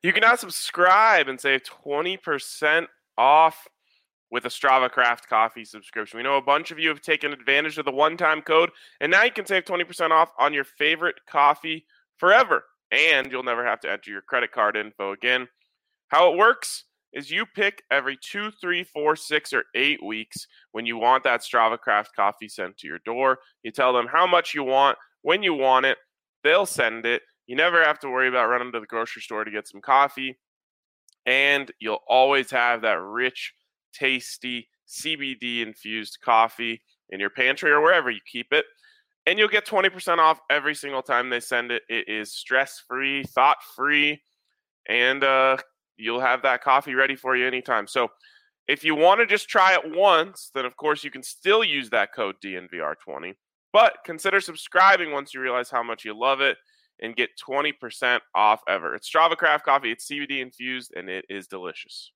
You can now subscribe and save 20% off with a Strava Craft Coffee subscription. We know a bunch of you have taken advantage of the one-time code, and now you can save 20% off on your favorite coffee forever, and you'll never have to enter your credit card info again. How it works is you pick every 2, 3, 4, 6, or 8 weeks when you want that Strava Craft coffee sent to your door. You tell them how much you want, when you want it, they'll send it. You never have to worry about running to the grocery store to get some coffee, and you'll always have that rich, tasty CBD-infused coffee in your pantry or wherever you keep it, and you'll get 20% off every single time they send it. It is stress-free, thought-free, and you'll have that coffee ready for you anytime. So if you want to just try it once, then of course you can still use that code DNVR20, but consider subscribing once you realize how much you love it and get 20% off ever. It's Strava Craft Coffee. It's CBD infused, and it is delicious.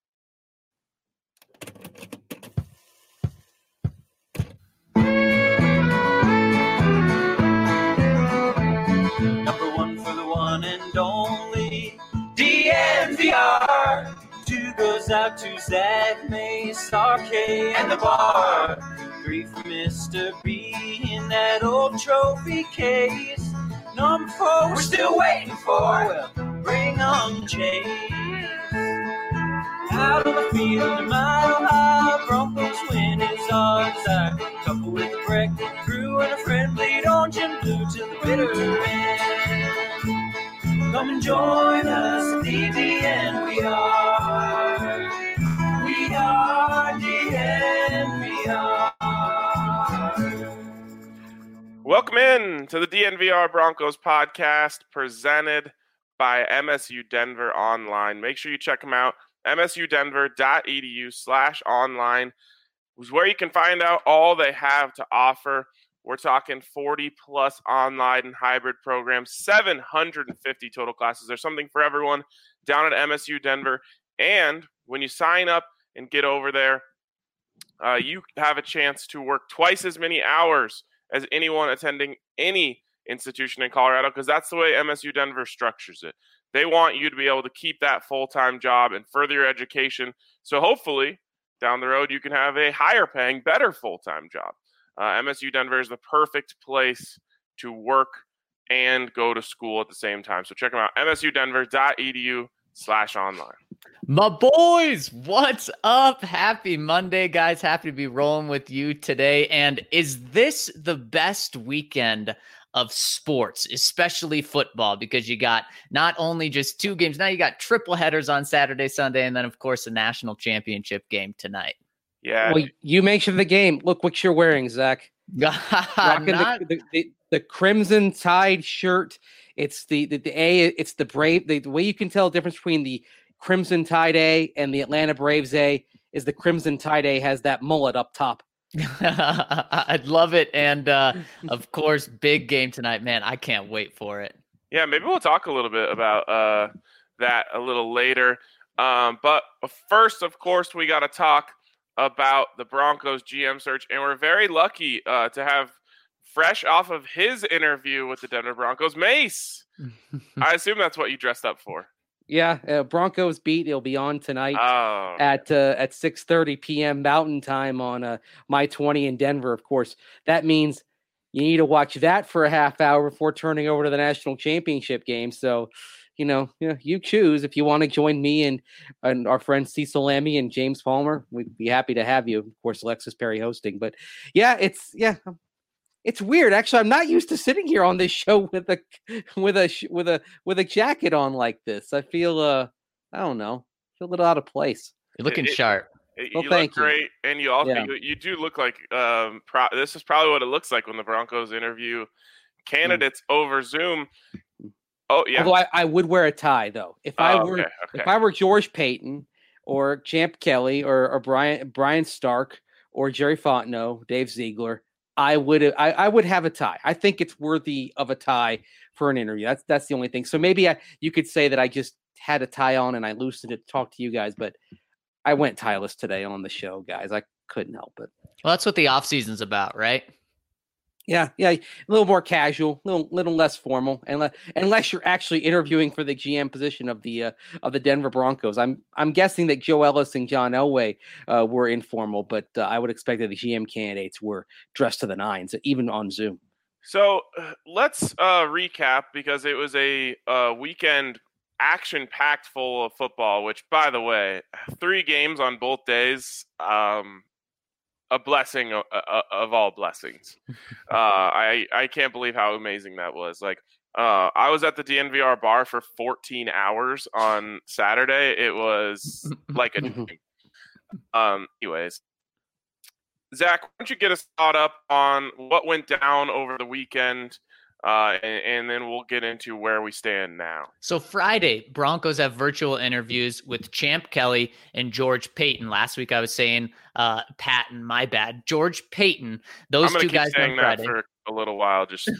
Number one for the one and only DNVR. 2 goes out to Zach Mace, RK, and the bar. 3 for Mr. B in that old trophy case. Number 4 we're still waiting for. Well, bring on Chase. Out on the field, a mile high, Broncos win is our desire. Couple with a breakfast crew and a friend bleed orange and blue till the bitter end. Come and join us at DNVR. We are DNVR. Welcome in to the DNVR Broncos podcast presented by MSU Denver Online. Make sure you check them out. msudenver.edu/online is where you can find out all they have to offer. We're talking 40-plus online and hybrid programs, 750 total classes. There's something for everyone down at MSU Denver. And when you sign up and get over there, you have a chance to work twice as many hours as anyone attending any institution in Colorado, because that's the way MSU Denver structures it. They want you to be able to keep that full-time job and further your education. So hopefully down the road you can have a higher paying, better full-time job. MSU Denver is the perfect place to work and go to school at the same time. So check them out, msudenver.edu/online. My boys, what's up? Happy Monday, guys. Happy to be rolling with you today. And is this the best weekend of sports, especially football? Because you got not only just 2 games, now you got triple headers on Saturday, Sunday, and then, of course, the national championship game tonight. Yeah. Well, you mentioned the game. Look what you're wearing, Zach. Rocking the Crimson Tide shirt. It's it's the Brave. The way you can tell the difference between the Crimson Tide A and the Atlanta Braves A is the Crimson Tide A has that mullet up top. I'd love it. And of course, big game tonight, man. I can't wait for it. Yeah, maybe we'll talk a little bit about that a little later. But first, of course, we got to talk about the Broncos GM search. And we're very lucky to have fresh off of his interview with the Denver Broncos, Mace. I assume that's what you dressed up for. Yeah, Broncos beat. It'll be on tonight at 6:30 p.m. Mountain Time on My 20 in Denver. Of course, that means you need to watch that for a half hour before turning over to the national championship game. So, you choose if you want to join me and our friends Cecil Lammy and James Palmer. We'd be happy to have you. Of course, Alexis Perry hosting. But it's weird. Actually, I'm not used to sitting here on this show with a jacket on like this. I feel I don't know. I feel a little out of place. You're looking sharp. You look great, and you also you do look like this is probably what it looks like when the Broncos interview candidates over Zoom. Oh yeah. Although I would wear a tie though. If I were George Payton or Champ Kelly or Brian Stark or Jerry Fontenot, Dave Ziegler, I would have a tie. I think it's worthy of a tie for an interview. That's the only thing. So maybe you could say that I just had a tie on and I loosened it to talk to you guys, but I went tieless today on the show, guys. I couldn't help it. Well, that's what the off season's about, right? Yeah, a little more casual, little less formal, and unless you're actually interviewing for the GM position of the Denver Broncos. I'm guessing that Joe Ellis and John Elway were informal, but I would expect that the GM candidates were dressed to the nines, even on Zoom. So let's recap, because it was a weekend action-packed full of football. Which, by the way, 3 games on both days. A blessing of all blessings. I can't believe how amazing that was. Like, I was at the DNVR bar for 14 hours on Saturday. It was like a dream. Anyways, Zach, why don't you get us caught up on what went down over the weekend? And then we'll get into where we stand now. So Friday, Broncos have virtual interviews with Champ Kelly and George Paton. Last week I was saying Patton, my bad. George Paton. Those two guys on Friday. For a little while, just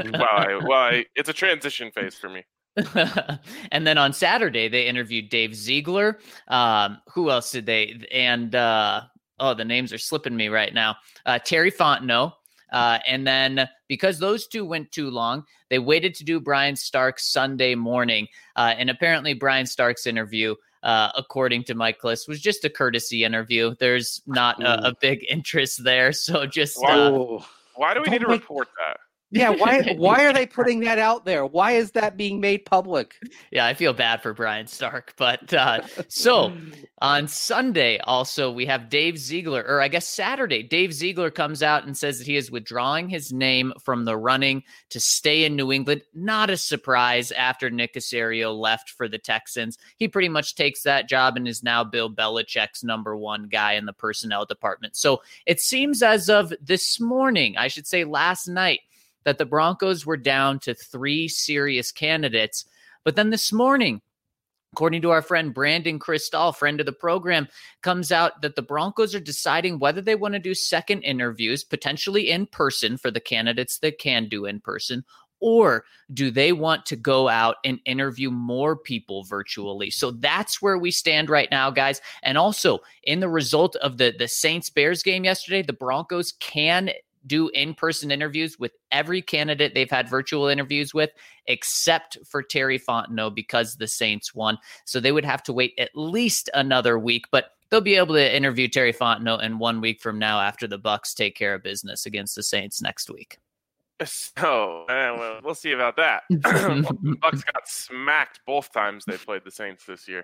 it's a transition phase for me. And then on Saturday, they interviewed Dave Ziegler. Who else did they? And the names are slipping me right now. Terry Fontenot. And then because those two went too long, they waited to do Brian Stark's Sunday morning. And apparently Brian Stark's interview, according to Mike Kliss, was just a courtesy interview. There's not a big interest there. So just why do we need to report that? Yeah, why are they putting that out there? Why is that being made public? Yeah, I feel bad for Brian Stark. But so on Sunday, also, we have Dave Ziegler, or I guess Saturday, Dave Ziegler comes out and says that he is withdrawing his name from the running to stay in New England. Not a surprise after Nick Caserio left for the Texans. He pretty much takes that job and is now Bill Belichick's number one guy in the personnel department. So it seems as of this morning, I should say last night, that the Broncos were down to 3 serious candidates. But then this morning, according to our friend Brandon Cristal, friend of the program, comes out that the Broncos are deciding whether they want to do second interviews, potentially in person for the candidates that can do in person, or do they want to go out and interview more people virtually? So that's where we stand right now, guys. And also, in the result of the Saints-Bears game yesterday, the Broncos can do in-person interviews with every candidate they've had virtual interviews with, except for Terry Fontenot, because the Saints won. So they would have to wait at least another week, but they'll be able to interview Terry Fontenot in 1 week from now after the Bucs take care of business against the Saints next week. So, well, we'll see about that. The Bucs got smacked both times they played the Saints this year.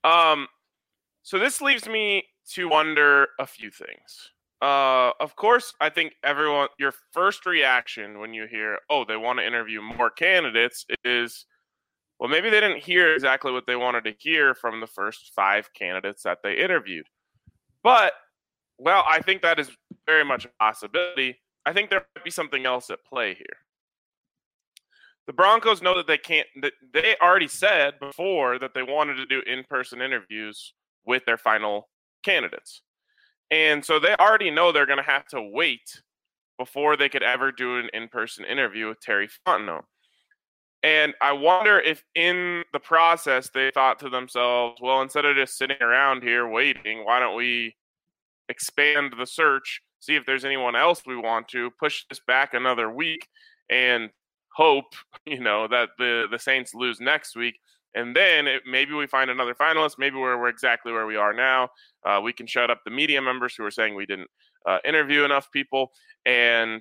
So this leaves me to wonder a few things. Of course, I think your first reaction when you hear, they want to interview more candidates is, well, maybe they didn't hear exactly what they wanted to hear from the first 5 candidates that they interviewed. But, well, I think that is very much a possibility. I think there might be something else at play here. The Broncos know that they already said before that they wanted to do in-person interviews with their final candidates. And so they already know they're going to have to wait before they could ever do an in-person interview with Terry Fontenot. And I wonder if in the process they thought to themselves, well, instead of just sitting around here waiting, why don't we expand the search, see if there's anyone else we want to, push this back another week, and hope, that the Saints lose next week. And then maybe we find another finalist. Maybe we're exactly where we are now. We can shut up the media members who are saying we didn't interview enough people, and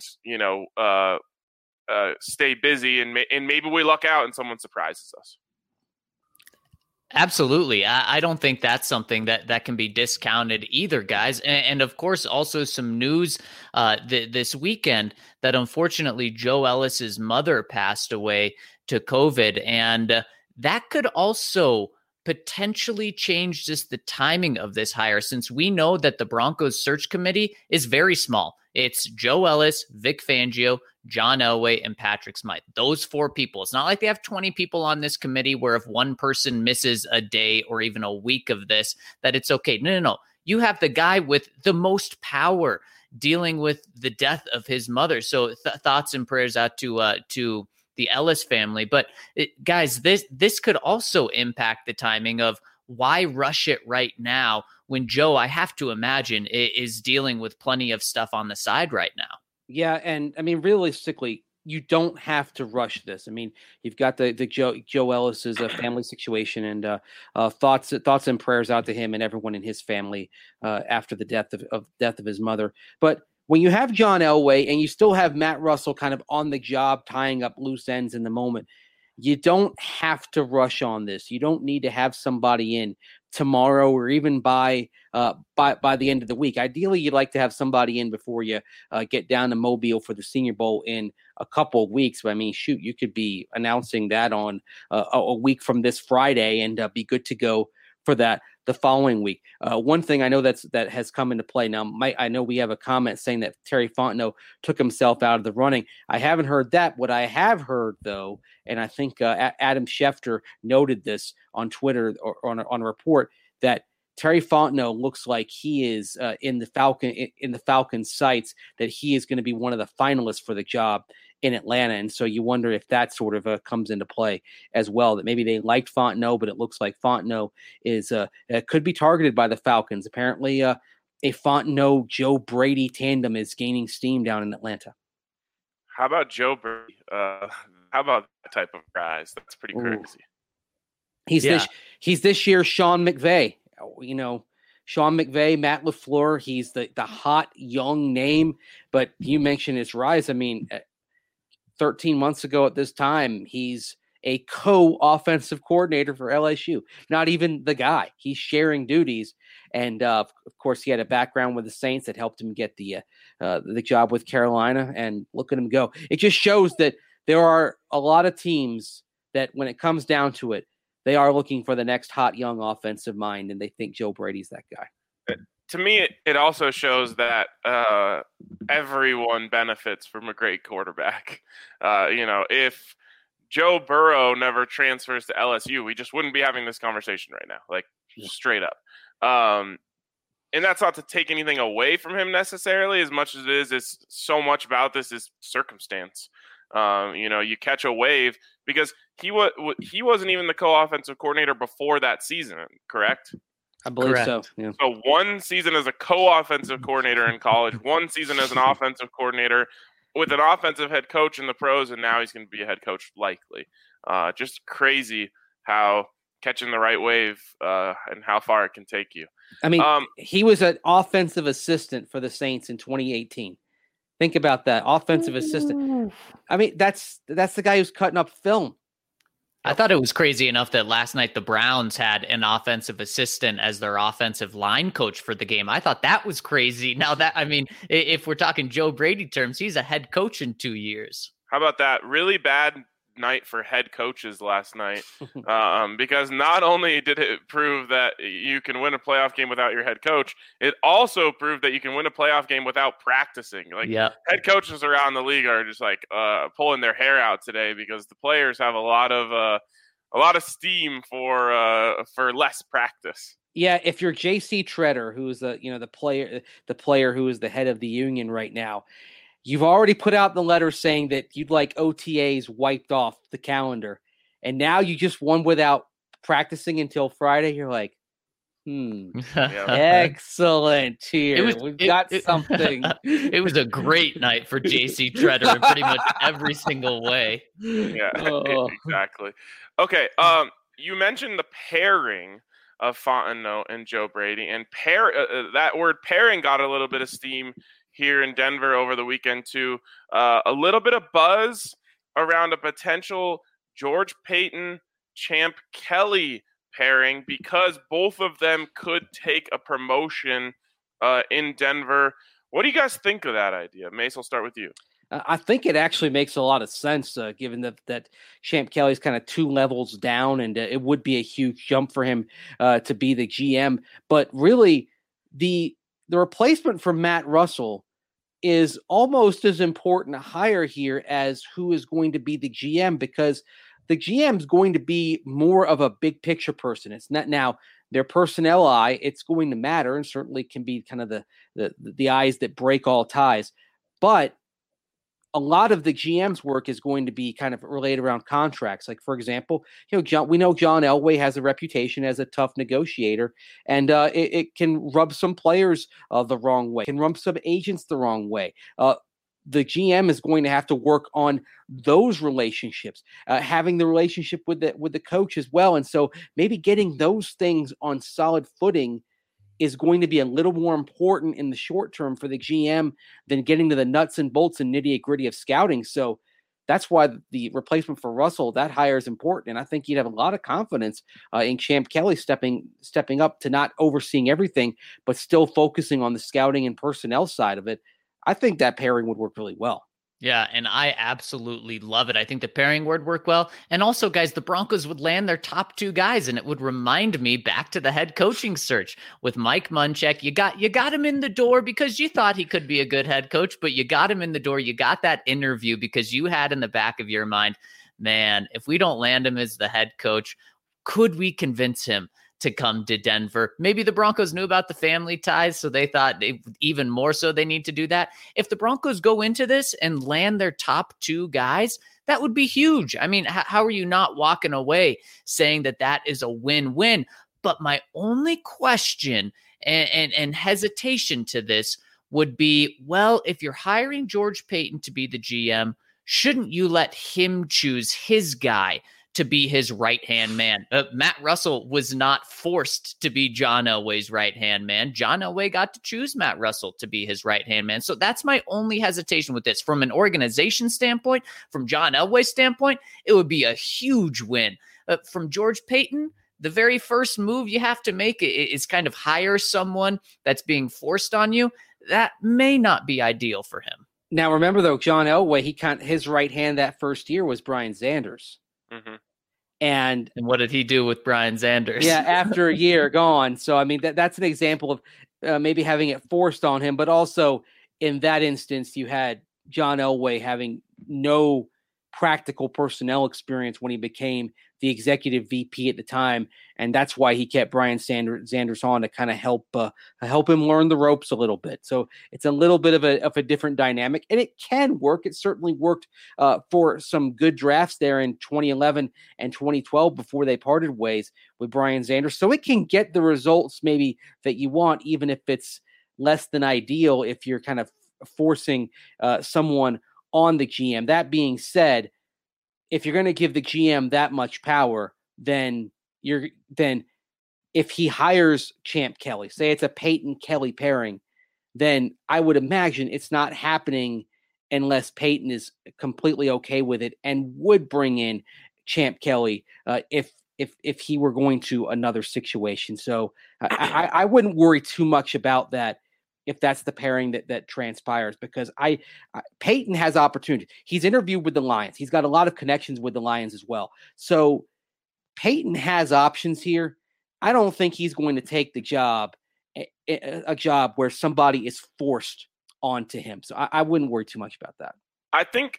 stay busy. And maybe we luck out and someone surprises us. Absolutely. I don't think that's something that can be discounted either, guys. And of course, also some news this weekend that unfortunately Joe Ellis's mother passed away to COVID, and that could also potentially change just the timing of this hire, since we know that the Broncos search committee is very small. It's Joe Ellis, Vic Fangio, John Elway, and Patrick Smythe. Those 4 people. It's not like they have 20 people on this committee where if one person misses a day or even a week of this, that it's okay. No. You have the guy with the most power dealing with the death of his mother. So thoughts and prayers out to the Ellis family. But guys, this could also impact the timing of why rush it right now when Joe, I have to imagine, is dealing with plenty of stuff on the side right now. Yeah, and I mean, realistically, you don't have to rush this. I mean, you've got the Joe Ellis's family situation, and thoughts and prayers out to him and everyone in his family after the death of his mother. But when you have John Elway and you still have Matt Russell kind of on the job, tying up loose ends in the moment, you don't have to rush on this. You don't need to have somebody in tomorrow or even by the end of the week. Ideally, you'd like to have somebody in before you get down to Mobile for the Senior Bowl in a couple of weeks. But I mean, shoot, you could be announcing that on a week from this Friday and be good to go for that the following week. One thing I know that has come into play now. I know we have a comment saying that Terry Fontenot took himself out of the running. I haven't heard that. What I have heard, though, and I think Adam Schefter noted this on Twitter or on a report, that Terry Fontenot looks like he is in the Falcons' sights, that he is going to be one of the finalists for the job in Atlanta. And so you wonder if that sort of comes into play as well, that maybe they liked Fontenot, but it looks like Fontenot is could be targeted by the Falcons. Apparently a Fontenot-Joe Brady tandem is gaining steam down in Atlanta. How about Joe Brady? How about that type of guys? That's pretty crazy. He's this year's Sean McVay. You know, Sean McVay, Matt LaFleur, he's the hot young name, but you mentioned his rise. I mean, 13 months ago at this time, he's a co-offensive coordinator for LSU. Not even the guy. He's sharing duties. And, of course, he had a background with the Saints that helped him get the job with Carolina. And look at him go. It just shows that there are a lot of teams that when it comes down to it, they are looking for the next hot young offensive mind, and they think Joe Brady's that guy. To me, it also shows that everyone benefits from a great quarterback. If Joe Burrow never transfers to LSU, we just wouldn't be having this conversation right now, like straight up. And that's not to take anything away from him necessarily, as much as it is. It's so much about this is circumstance. You catch a wave because he wasn't even the co-offensive coordinator before that season, correct? I believe so. Yeah. So one season as a co-offensive coordinator in college, one season as an offensive coordinator with an offensive head coach in the pros, and now he's going to be a head coach likely. Just crazy how catching the right wave and how far it can take you. I mean, he was an offensive assistant for the Saints in 2018. Think about that, offensive assistant. I mean, that's the guy who's cutting up film. I thought it was crazy enough that last night the Browns had an offensive assistant as their offensive line coach for the game. I thought that was crazy. Now that, I mean, if we're talking Joe Brady terms, he's a head coach in 2 years. How about that? Really bad night for head coaches last night, because not only did it prove that you can win a playoff game without your head coach, it also proved that you can win a playoff game without practicing. Head coaches around the league are just like pulling their hair out today because the players have a lot of steam for less practice. Yeah, if you're J.C. Treader, who's the player who is the head of the union right now, you've already put out the letter saying that you'd like OTAs wiped off the calendar, and now you just won without practicing until Friday. You're like, excellent. Here we've got something. It was a great night for JC Treader in pretty much every single way. Yeah, exactly. Okay, you mentioned the pairing of Fontenot and Joe Brady, and that word pairing got a little bit of steam here in Denver over the weekend too. A little bit of buzz around a potential George Paton, Champ Kelly pairing because both of them could take a promotion in Denver. What do you guys think of that idea? Mace, I'll start with you. I think it actually makes a lot of sense given that Champ Kelly's kind of 2 levels down, and it would be a huge jump for him to be the GM. But really, the replacement for Matt Russell is almost as important a hire here as who is going to be the GM, because the GM is going to be more of a big picture person. It's not now their personnel eye. It's going to matter and certainly can be kind of the eyes that break all ties. But a lot of the GM's work is going to be kind of related around contracts. Like, for example, we know John Elway has a reputation as a tough negotiator, and it can rub some players the wrong way, can rub some agents the wrong way. the GM is going to have to work on those relationships, having the relationship with the coach as well. And so maybe getting those things on solid footing is going to be a little more important in the short term for the GM than getting to the nuts and bolts and nitty gritty of scouting. So that's why the replacement for Russell, that hire is important. And I think you'd have a lot of confidence in Champ Kelly stepping up to not overseeing everything, but still focusing on the scouting and personnel side of it. I think that pairing would work really well. Yeah, and I absolutely love it. I think the pairing would work well. And also, guys, the Broncos would land their top 2 guys, and it would remind me back to the head coaching search with Mike Munchak. You got him in the door because you thought he could be a good head coach, but you got him in the door. You got that interview because you had in the back of your mind, man, if we don't land him as the head coach, could we convince him to come to Denver? Maybe the Broncos knew about the family ties, so they thought even more so they need to do that. If the Broncos go into this and land their top 2 guys, that would be huge. I mean, how are you not walking away saying that is a win-win? But my only question and hesitation to this would be, well, if you're hiring George Paton to be the GM, shouldn't you let him choose his guy to be his right-hand man? Matt Russell was not forced to be John Elway's right-hand man. John Elway got to choose Matt Russell to be his right-hand man. So that's my only hesitation with this. From an organization standpoint, from John Elway's standpoint, it would be a huge win. From George Paton, the very first move you have to make is kind of hire someone that's being forced on you. That may not be ideal for him. Now, remember, though, John Elway, his right hand that first year was Brian Sanders. Mm-hmm. And what did he do with Brian Sanders? Yeah, after a year gone. So, I mean, that's an example of maybe having it forced on him. But also, in that instance, you had John Elway having no practical personnel experience when he became the executive VP at the time. And that's why he kept Brian Sanders on to kind of help him learn the ropes a little bit. So it's a little bit of a different dynamic, and it can work. It certainly worked for some good drafts there in 2011 and 2012 before they parted ways with Brian Sanders. So it can get the results maybe that you want, even if it's less than ideal, if you're kind of forcing someone on the GM. That being said, if you're going to give the GM that much power, then if he hires Champ Kelly, say it's a Paton Kelly pairing, then I would imagine it's not happening unless Paton is completely okay with it and would bring in Champ Kelly if he were going to another situation. So I wouldn't worry too much about that if that's the pairing that transpires, because Paton has opportunity. He's interviewed with the Lions. He's got a lot of connections with the Lions as well. So Paton has options here. I don't think he's going to take the job, a job where somebody is forced onto him. So I wouldn't worry too much about that. I think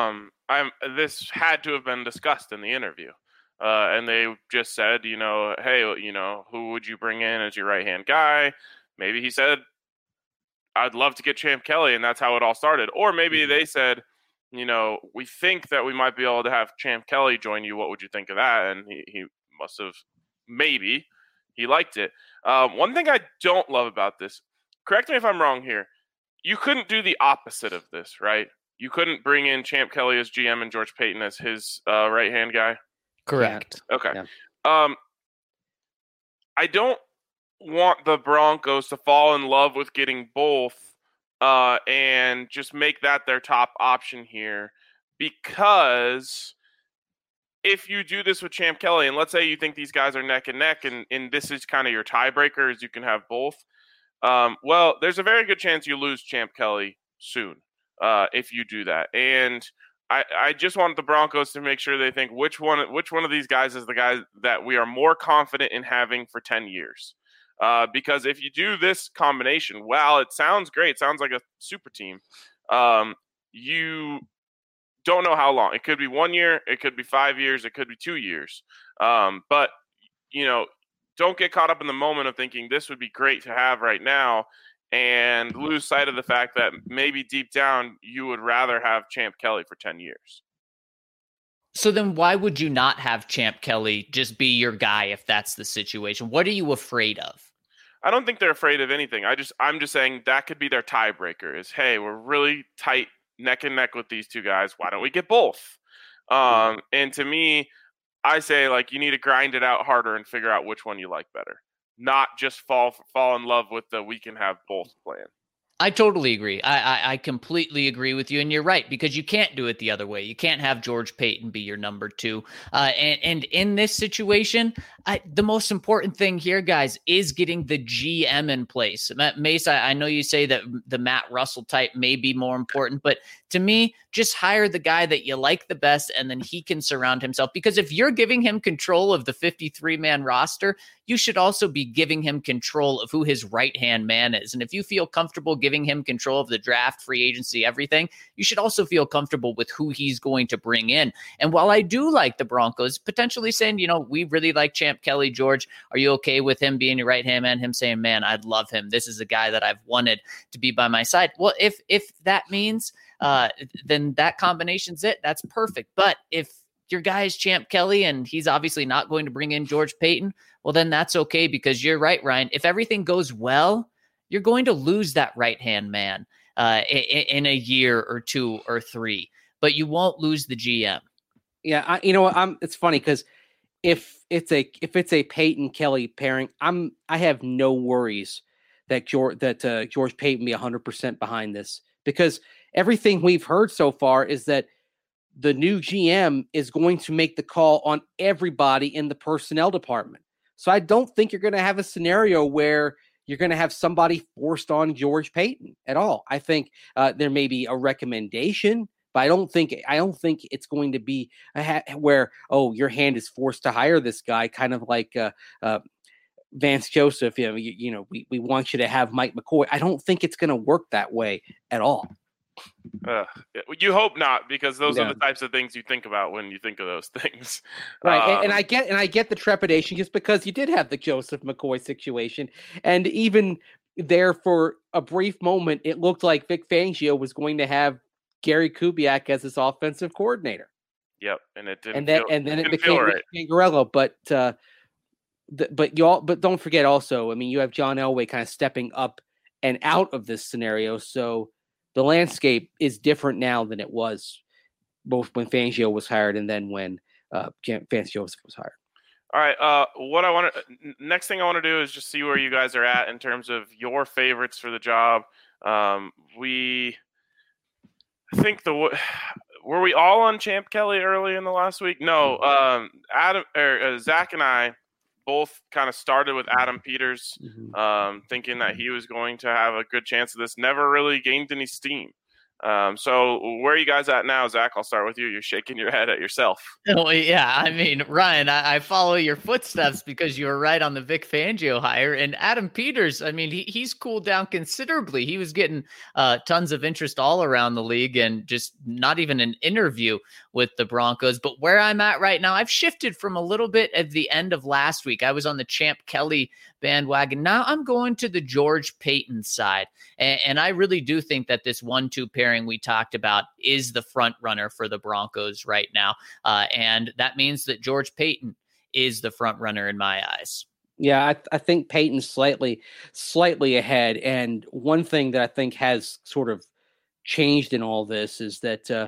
this had to have been discussed in the interview. And they just said, hey, who would you bring in as your right-hand guy? Maybe he said, I'd love to get Champ Kelly, and that's how it all started. Or maybe they said, we think that we might be able to have Champ Kelly join you. What would you think of that? And he must have, maybe, he liked it. One thing I don't love about this, correct me if I'm wrong here, you couldn't do the opposite of this, right? You couldn't bring in Champ Kelly as GM and George Paton as his right-hand guy? Correct. Okay. Yeah. I don't want the Broncos to fall in love with getting both and just make that their top option here, because if you do this with Champ Kelly, and let's say you think these guys are neck and neck, and this is kind of your tiebreaker, is you can have both, well, there's a very good chance you lose Champ Kelly soon if you do that. And I just want the Broncos to make sure they think which one of these guys is the guy that we are more confident in having for 10 years. Because if you do this combination, well, it sounds great. Sounds like a super team. You don't know how long. It could be 1 year. It could be 5 years. It could be 2 years. But, don't get caught up in the moment of thinking this would be great to have right now and lose sight of the fact that maybe deep down you would rather have Champ Kelly for 10 years. So then why would you not have Champ Kelly just be your guy if that's the situation? What are you afraid of? I don't think they're afraid of anything. I'm just saying that could be their tiebreaker is, hey, we're really tight neck and neck with these two guys. Why don't we get both? And to me, I say, like, you need to grind it out harder and figure out which one you like better, not just fall in love with the we can have both plan. I totally agree. I completely agree with you. And you're right, because you can't do it the other way. You can't have George Paton be your number two. And in this situation, the most important thing here, guys, is getting the GM in place. Mace, I know you say that the Matt Russell type may be more important, but to me, just hire the guy that you like the best, and then he can surround himself. Because if you're giving him control of the 53-man roster, you should also be giving him control of who his right-hand man is. And if you feel comfortable giving him control of the draft, free agency, everything, you should also feel comfortable with who he's going to bring in. And while I do like the Broncos potentially saying, we really like Champ Kelly, George, are you okay with him being your right-hand man? Him saying, man, I'd love him. This is a guy that I've wanted to be by my side. Well, if that means then that combination's it. That's perfect. But if your guy is Champ Kelly and he's obviously not going to bring in George Paton, well, then that's okay, because you're right, Ryan. If everything goes well, you're going to lose that right-hand man in a year or 2 or 3, but you won't lose the GM. Yeah, it's funny because if it's a Paton Kelly pairing, I have no worries that George Paton be 100% behind this, because everything we've heard so far is that the new GM is going to make the call on everybody in the personnel department. So I don't think you're going to have a scenario where you're going to have somebody forced on George Paton at all. I think there may be a recommendation, but I don't think it's going to be where, your hand is forced to hire this guy, kind of like Vance Joseph. We want you to have Mike McCoy. I don't think it's going to work that way at all. You hope not, because those are the types of things you think about when you think of those things. Right. And I get the trepidation, just because you did have the Joseph McCoy situation. And even there, for a brief moment, it looked like Vic Fangio was going to have Gary Kubiak as his offensive coordinator. Yep. And it didn't. And then it became right. Pingarello. But don't forget also, you have John Elway kind of stepping up and out of this scenario. So the landscape is different now than it was both when Fangio was hired and then when Vance Joseph was hired. All right. Next thing I want to do is just see where you guys are at in terms of your favorites for the job. I think were we all on Champ Kelly early in the last week? No. Zach and I both kind of started with Adam Peters, thinking that he was going to have a good chance of this. Never really gained any steam. So where are you guys at now, Zach? I'll start with you. You're shaking your head at yourself. Oh, yeah. Ryan, I follow your footsteps because you were right on the Vic Fangio hire. And Adam Peters, he's cooled down considerably. He was getting tons of interest all around the league and just not even an interview with the Broncos. But where I'm at right now, I've shifted from a little bit at the end of last week. I was on the Champ Kelly bandwagon. Now I'm going to the George Paton side. And I really do think that this 1-2 pairing we talked about is the front runner for the Broncos right now. And that means that George Paton is the front runner in my eyes. Yeah, I think Paton's slightly ahead. And one thing that I think has sort of changed in all this is that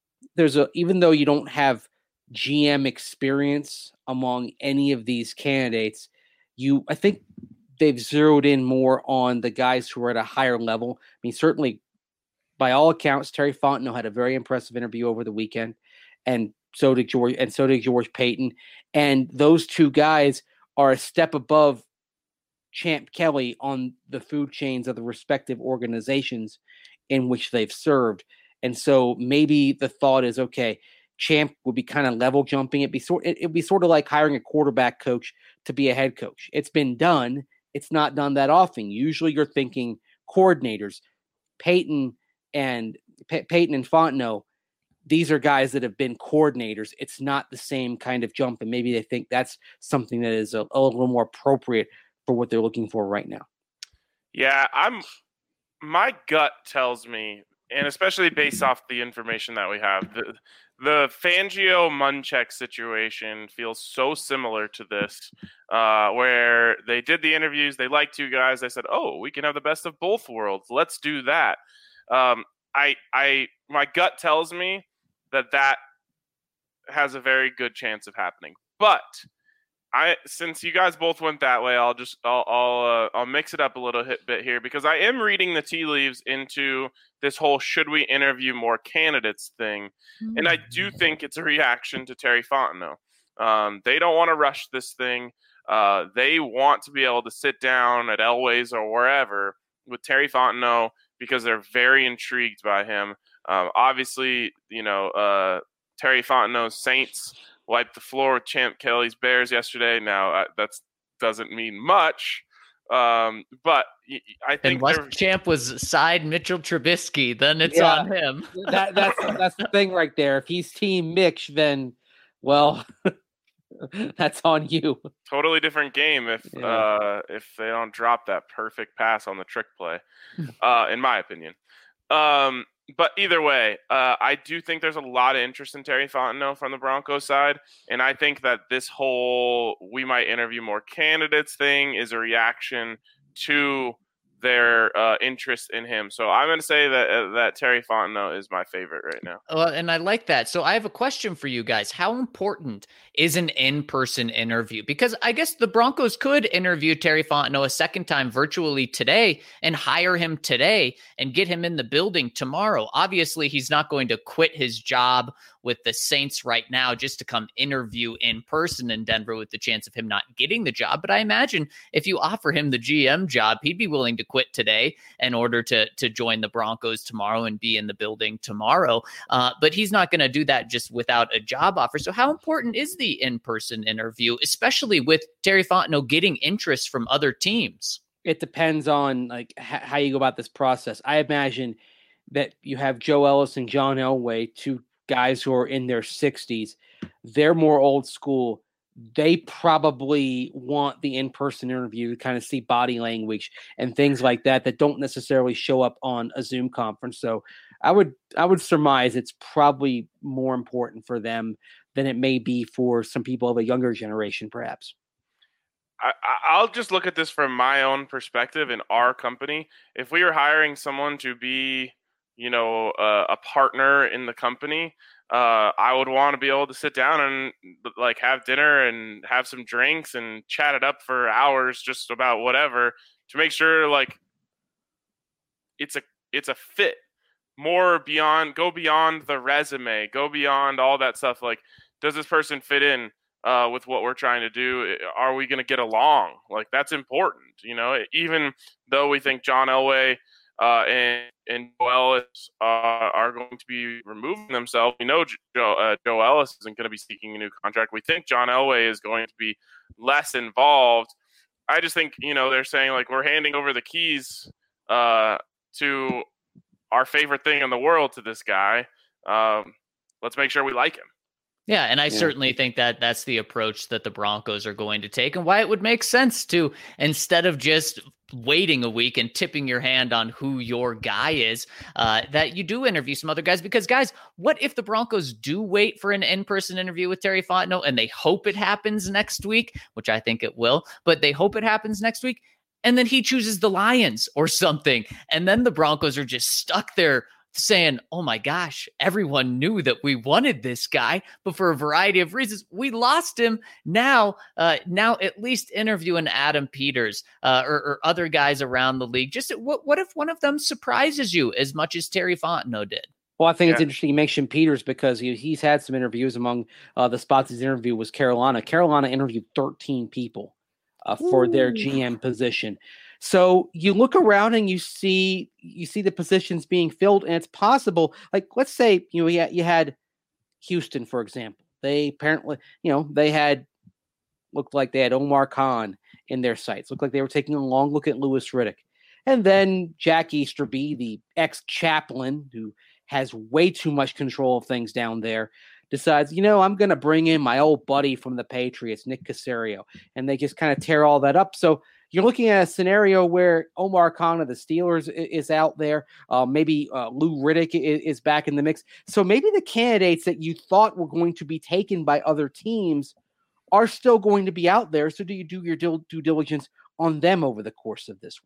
even though you don't have GM experience among any of these candidates, I think they've zeroed in more on the guys who are at a higher level. Certainly, by all accounts, Terry Fontenot had a very impressive interview over the weekend, and so did George Paton. And those two guys are a step above Champ Kelly on the food chains of the respective organizations in which they've served. And so maybe the thought is, okay, Champ would be kind of level jumping. It'd be sort of like hiring a quarterback coach to be a head coach. It's been done. It's not done that often. Usually you're thinking coordinators. Paton and Fontenot, these are guys that have been coordinators. It's not the same kind of jump, and maybe they think that's something that is a little more appropriate for what they're looking for right now. Yeah, my gut tells me, and especially based off the information that we have, the Fangio-Munchak situation feels so similar to this, where they did the interviews, they liked two guys, they said, we can have the best of both worlds, let's do that. my gut tells me that has a very good chance of happening. But since you guys both went that way, I'll mix it up a little bit here, because I am reading the tea leaves into this whole should we interview more candidates thing, and I do think it's a reaction to Terry Fontenot. They don't want to rush this thing. They want to be able to sit down at Elway's or wherever with Terry Fontenot because they're very intrigued by him. Obviously, Terry Fontenot's Saints wiped the floor with Champ Kelly's Bears yesterday. Now, that doesn't mean much, but I think unless Champ was side Mitchell Trubisky, then it's on him. That's the thing right there. If he's Team Mitch, then, well, that's on you. Totally different game if they don't drop that perfect pass on the trick play, in my opinion. But either way, I do think there's a lot of interest in Terry Fontenot from the Broncos side, and I think that this whole we might interview more candidates thing is a reaction to their interest in him. So I'm going to say that Terry Fontenot is my favorite right now. And I like that. So I have a question for you guys. How important is an in-person interview? Because I guess the Broncos could interview Terry Fontenot a second time virtually today and hire him today and get him in the building tomorrow. Obviously, he's not going to quit his job with the Saints right now just to come interview in person in Denver with the chance of him not getting the job. But I imagine if you offer him the GM job, he'd be willing to quit today in order to join the Broncos tomorrow and be in the building tomorrow. But he's not going to do that just without a job offer. So how important is the in-person interview, especially with Terry Fontenot getting interest from other teams? It depends on like how you go about this process. I imagine that you have Joe Ellis and John Elway, two guys who are in their 60s. They're more old school. They probably want the in-person interview to kind of see body language and things like that don't necessarily show up on a Zoom conference. So I would surmise it's probably more important for them than it may be for some people of a younger generation, perhaps. I'll just look at this from my own perspective in our company. If we were hiring someone to be, a partner in the company, I would want to be able to sit down and like have dinner and have some drinks and chat it up for hours just about whatever to make sure like it's a fit. Go beyond the resume, go beyond all that stuff. Like, does this person fit in with what we're trying to do? Are we going to get along? Like, that's important, even though we think John Elway and Joe Ellis are going to be removing themselves. We know Joe Ellis isn't going to be seeking a new contract. We think John Elway is going to be less involved. I just think, they're saying like we're handing over the keys to our favorite thing in the world to this guy. Let's make sure we like him. Yeah, and I certainly think that that's the approach that the Broncos are going to take, and why it would make sense to, instead of just waiting a week and tipping your hand on who your guy is, that you do interview some other guys. Because, guys, what if the Broncos do wait for an in-person interview with Terry Fontenot and they hope it happens next week, which I think it will, but they hope it happens next week, and then he chooses the Lions or something, and then the Broncos are just stuck there saying, oh my gosh, everyone knew that we wanted this guy, but for a variety of reasons, we lost him. Now at least interview an Adam Peters or other guys around the league. Just what if one of them surprises you as much as Terry Fontenot did? Well, I think it's interesting you mentioned Peters because he's had some interviews. Among the spots he's interviewed was Carolina. Carolina interviewed 13 people for their GM position. So you look around and you see the positions being filled, and it's possible. Like, let's say you had Houston, for example. They apparently looked like they had Omar Khan in their sights. Looked like they were taking a long look at Louis Riddick, and then Jack Easterby, the ex-chaplain who has way too much control of things down there, decides, I'm going to bring in my old buddy from the Patriots, Nick Caserio, and they just kind of tear all that up. So you're looking at a scenario where Omar Khan of the Steelers is out there. Maybe Lou Riddick is back in the mix. So maybe the candidates that you thought were going to be taken by other teams are still going to be out there. So do you do your due diligence on them over the course of this week?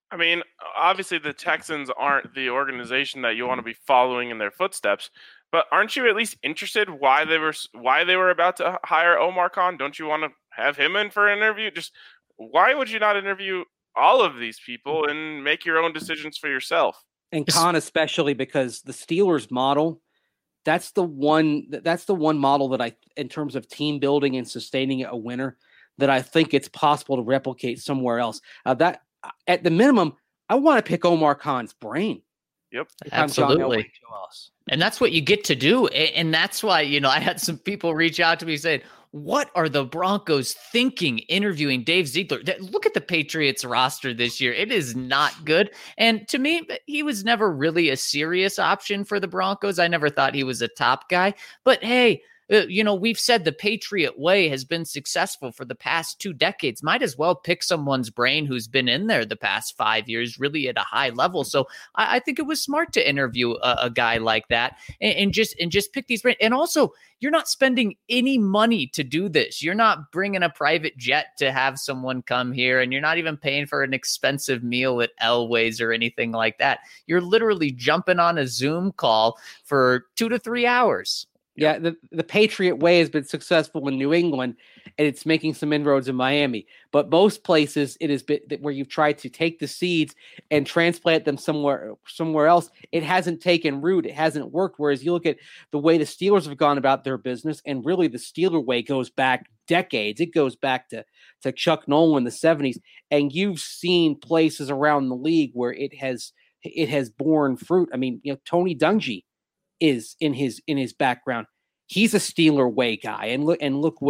I mean, obviously the Texans aren't the organization that you want to be following in their footsteps, but aren't you at least interested why they were about to hire Omar Khan? Don't you want to have him in for an interview? Just why would you not interview all of these people and make your own decisions for yourself? And Khan especially, because the Steelers model, that's the one model that in terms of team building and sustaining a winner, that I think it's possible to replicate somewhere else. That at the minimum, I want to pick Omar Khan's brain. Yep, absolutely. And that's what you get to do. And that's why, I had some people reach out to me saying, what are the Broncos thinking interviewing Dave Ziegler? Look at the Patriots roster this year. It is not good. And to me, he was never really a serious option for the Broncos. I never thought he was a top guy. But hey, we've said the Patriot way has been successful for the past 2 decades. Might as well pick someone's brain who's been in there the past 5 years, really at a high level. So I think it was smart to interview a guy like that and just pick these brains. And also, you're not spending any money to do this. You're not bringing a private jet to have someone come here, and you're not even paying for an expensive meal at Elway's or anything like that. You're literally jumping on a Zoom call for 2 to 3 hours. Yeah, the Patriot way has been successful in New England, and it's making some inroads in Miami. But most places, it has been where you've tried to take the seeds and transplant them somewhere else. It hasn't taken root. It hasn't worked. Whereas you look at the way the Steelers have gone about their business, and really the Steeler way goes back decades. It goes back to Chuck Nolan in the 70s, and you've seen places around the league where it has borne fruit. I mean, Tony Dungy is in his background. He's a Steeler way guy, and look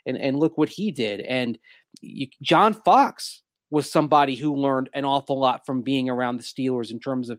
what he did. And John Fox was somebody who learned an awful lot from being around the Steelers in terms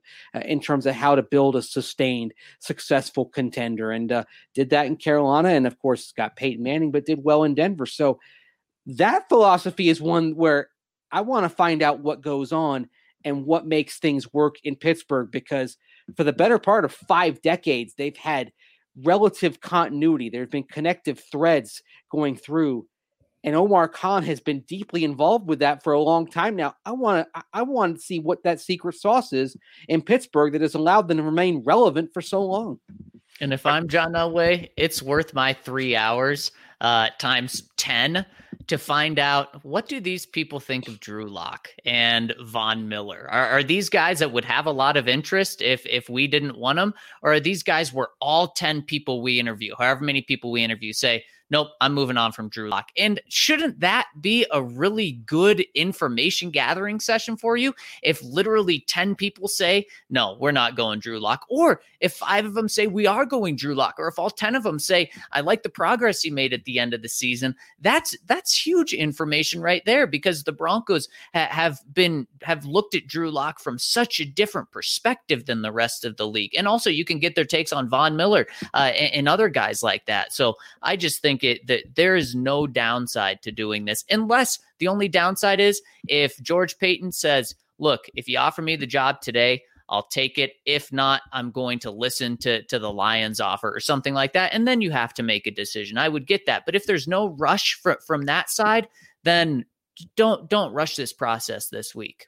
of how to build a sustained, successful contender, and did that in Carolina, and of course got Peyton Manning, but did well in Denver. So that philosophy is one where I want to find out what goes on and what makes things work in Pittsburgh, because for the better part of 5 decades, they've had relative continuity. There have been connective threads going through, and Omar Khan has been deeply involved with that for a long time now. I want to see what that secret sauce is in Pittsburgh that has allowed them to remain relevant for so long. And if I'm John Elway, it's worth my 3 hours times 10 to find out, what do these people think of Drew Lock and Von Miller? Are these guys that would have a lot of interest if we didn't want them? Or are these guys where all 10 people we interview, however many people we interview, say, nope, I'm moving on from Drew Lock? And shouldn't that be a really good information gathering session for you? If literally 10 people say, no, we're not going Drew Lock, or if 5 of them say we are going Drew Lock, or if all 10 of them say, I like the progress he made at the end of the season, that's huge information right there, because the Broncos have looked at Drew Lock from such a different perspective than the rest of the league. And also you can get their takes on Von Miller and other guys like that. So I just think that there is no downside to doing this, unless the only downside is if George Paton says, look, if you offer me the job today, I'll take it. If not, I'm going to listen to the Lions offer or something like that. And then you have to make a decision. I would get that. But if there's no rush from that side, then don't rush this process this week.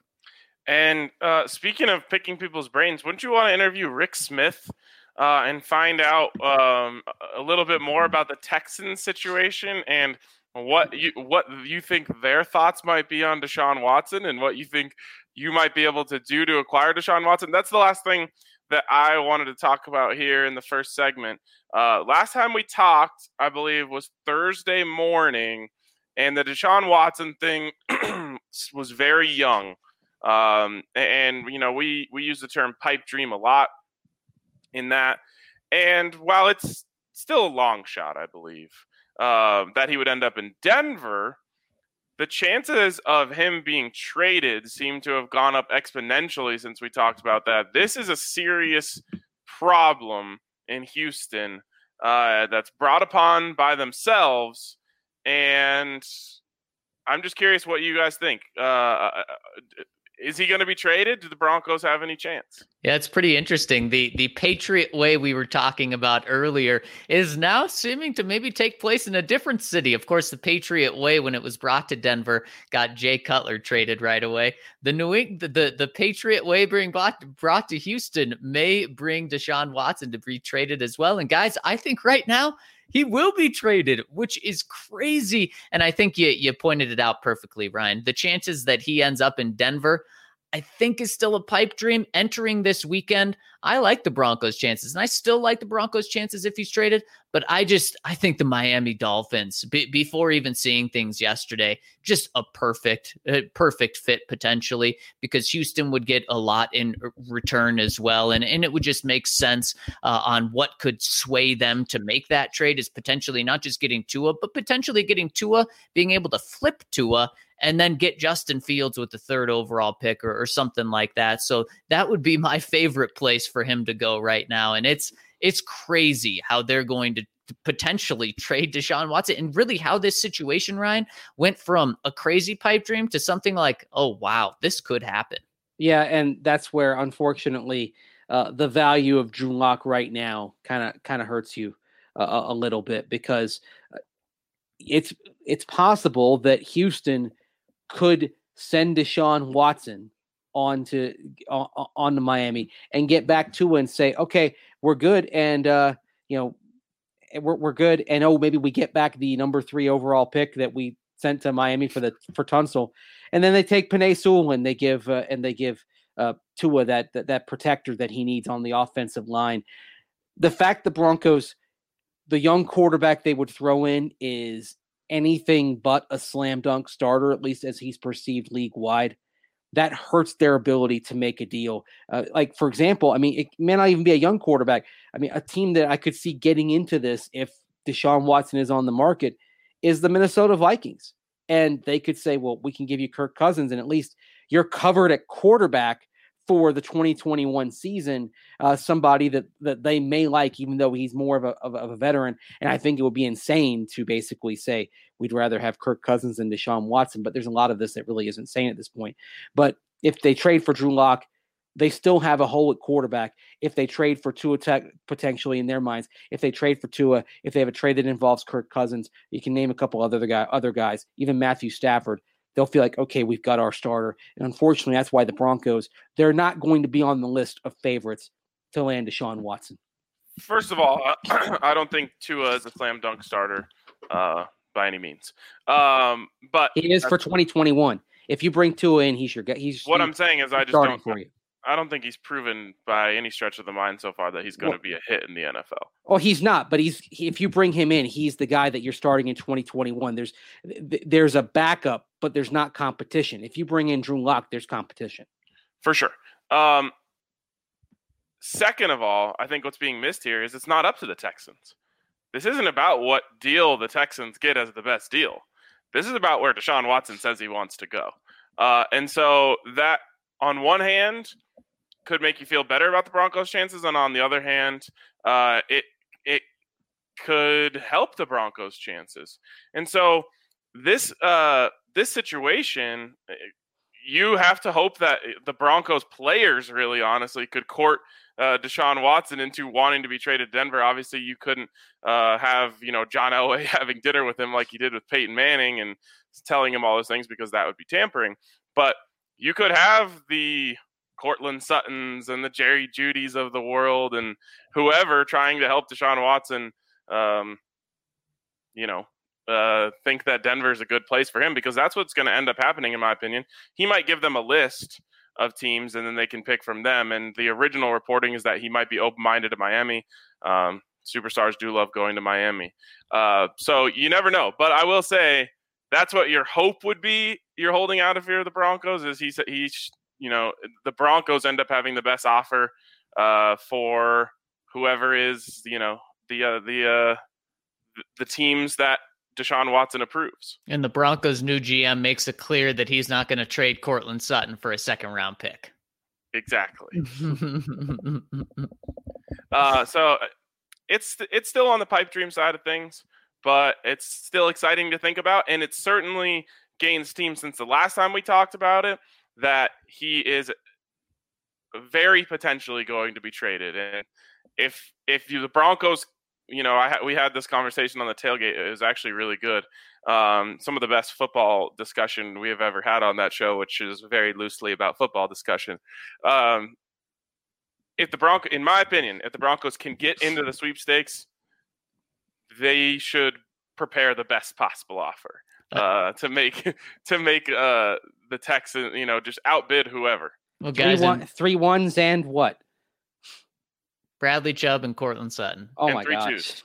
And speaking of picking people's brains, wouldn't you want to interview Rick Smith and find out a little bit more about the Texans situation and what you think their thoughts might be on Deshaun Watson and what you think you might be able to do to acquire Deshaun Watson? That's the last thing that I wanted to talk about here in the first segment. Last time we talked, I believe, was Thursday morning, and the Deshaun Watson thing was very young. And we use the term pipe dream a lot in that. And while it's still a long shot, I believe, that he would end up in Denver, the chances of him being traded seem to have gone up exponentially since we talked about that. This is a serious problem in Houston that's brought upon by themselves. And I'm just curious what you guys think. is he going to be traded? Do the Broncos have any chance? Yeah, it's pretty interesting. The Patriot way we were talking about earlier is now seeming to maybe take place in a different city. Of course, the Patriot way, when it was brought to Denver, got Jay Cutler traded right away. The Patriot way being brought to Houston may bring Deshaun Watson to be traded as well. And guys, I think right now he will be traded, which is crazy. And I think you pointed it out perfectly, Ryan. The chances that he ends up in Denver, I think, is still a pipe dream. Entering this weekend, I like the Broncos' chances, and I still like the Broncos' chances if he's traded. But I think the Miami Dolphins, before even seeing things yesterday, just a perfect fit potentially, because Houston would get a lot in return as well, and it would just make sense on what could sway them to make that trade is potentially not just getting Tua, but potentially getting Tua, being able to flip Tua, and then get Justin Fields with the 3rd overall pick or something like that. So that would be my favorite place for him to go right now. And it's crazy how they're going to potentially trade Deshaun Watson, and really how this situation, Ryan, went from a crazy pipe dream to something like, oh, wow, this could happen. Yeah, and that's where, unfortunately, the value of Drew Lock right now kind of hurts you a little bit, because it's possible that Houston could send Deshaun Watson on to Miami and get back to and say, okay, we're good. And, we're good. And, maybe we get back the number 3 overall pick that we sent to Miami for Tunsil. And then they take Penei Sewell and they give Tua that protector that he needs on the offensive line. The fact the Broncos, the young quarterback they would throw in is anything but a slam dunk starter, at least as he's perceived league wide, that hurts their ability to make a deal. Like, for example, it may not even be a young quarterback. A team that I could see getting into this if Deshaun Watson is on the market is the Minnesota Vikings. And they could say, well, we can give you Kirk Cousins, and at least you're covered at quarterback for the 2021 season, somebody that they may like, even though he's more of a veteran. And I think it would be insane to basically say we'd rather have Kirk Cousins than Deshaun Watson. But there's a lot of this that really isn't insane at this point. But if they trade for Drew Lock, they still have a hole at quarterback. If they trade for Tua, potentially in their minds, if they trade for Tua, if they have a trade that involves Kirk Cousins, you can name a couple other guys, even Matthew Stafford. They'll feel like, okay, we've got our starter. And unfortunately, that's why the Broncos, they're not going to be on the list of favorites to land Deshaun Watson. First of all, I don't think Tua is a slam dunk starter by any means. But he is for 2021. If you bring Tua in, he's your guy. I'm saying is I don't think he's proven by any stretch of the mind so far that he's going to be a hit in the NFL. Oh, he's not, but if you bring him in, he's the guy that you're starting in 2021. There's a backup, but there's not competition. If you bring in Drew Lock, there's competition. For sure. Second of all, I think what's being missed here is it's not up to the Texans. This isn't about what deal the Texans get as the best deal. This is about where Deshaun Watson says he wants to go. And so that, on one hand, could make you feel better about the Broncos' chances, and on the other hand, it could help the Broncos' chances. And so this situation, you have to hope that the Broncos players really honestly could court Deshaun Watson into wanting to be traded to Denver. Obviously, you couldn't have John Elway having dinner with him like he did with Peyton Manning and telling him all those things, because that would be tampering. But you could have the Cortland Suttons and the Jerry Judys of the world and whoever trying to help Deshaun Watson, think that Denver's a good place for him, because that's what's going to end up happening, in my opinion. He might give them a list of teams and then they can pick from them. And the original reporting is that he might be open-minded to Miami. Superstars do love going to Miami. So you never know. But I will say that's what your hope would be. You're holding out if you're the Broncos, is the Broncos end up having the best offer for whoever is, the teams that Deshaun Watson approves. And the Broncos' new GM makes it clear that he's not going to trade Cortland Sutton for a second-round pick. Exactly. So it's still on the pipe dream side of things, but it's still exciting to think about, and it certainly gains steam since the last time we talked about it. that he is very potentially going to be traded. And if the Broncos, we had this conversation on the tailgate. It was actually really good. Some of the best football discussion we have ever had on that show, which is very loosely about football discussion. In my opinion, if the Broncos can get into the sweepstakes, they should prepare the best possible offer to make the Texans, just outbid whoever. Well, guys, 3-1s and what? Bradley Chubb and Cortland Sutton. Oh my gosh.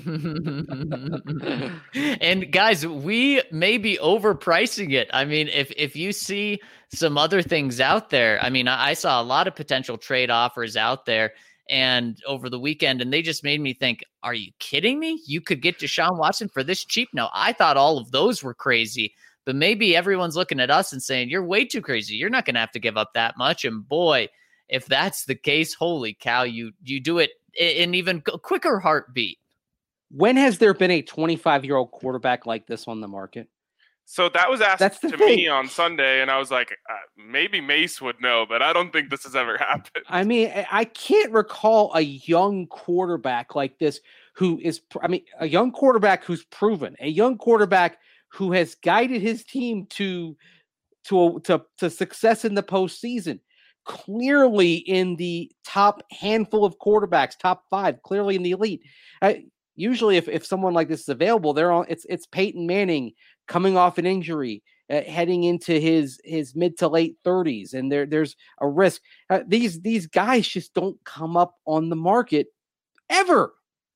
And guys, we may be overpricing it. I mean, if you see some other things out there, I mean, I saw a lot of potential trade offers out there and over the weekend, and they just made me think, are you kidding me? You could get Deshaun Watson for this cheap? No, I thought all of those were crazy, but maybe everyone's looking at us and saying, you're way too crazy. You're not going to have to give up that much. And boy, if that's the case, holy cow, you do it in even quicker heartbeat. When has there been a 25-year-old quarterback like this on the market? So that was asked to me on Sunday, and I was like, maybe Mace would know, but I don't think this has ever happened. I mean, I can't recall a young quarterback like this a young quarterback who's proven, a young quarterback who has guided his team to success in the postseason. Clearly in the top handful of quarterbacks, top 5, clearly in the elite. Usually if someone like this is available, it's Peyton Manning coming off an injury, heading into his mid to late 30s, and there's a risk. These guys just don't come up on the market ever.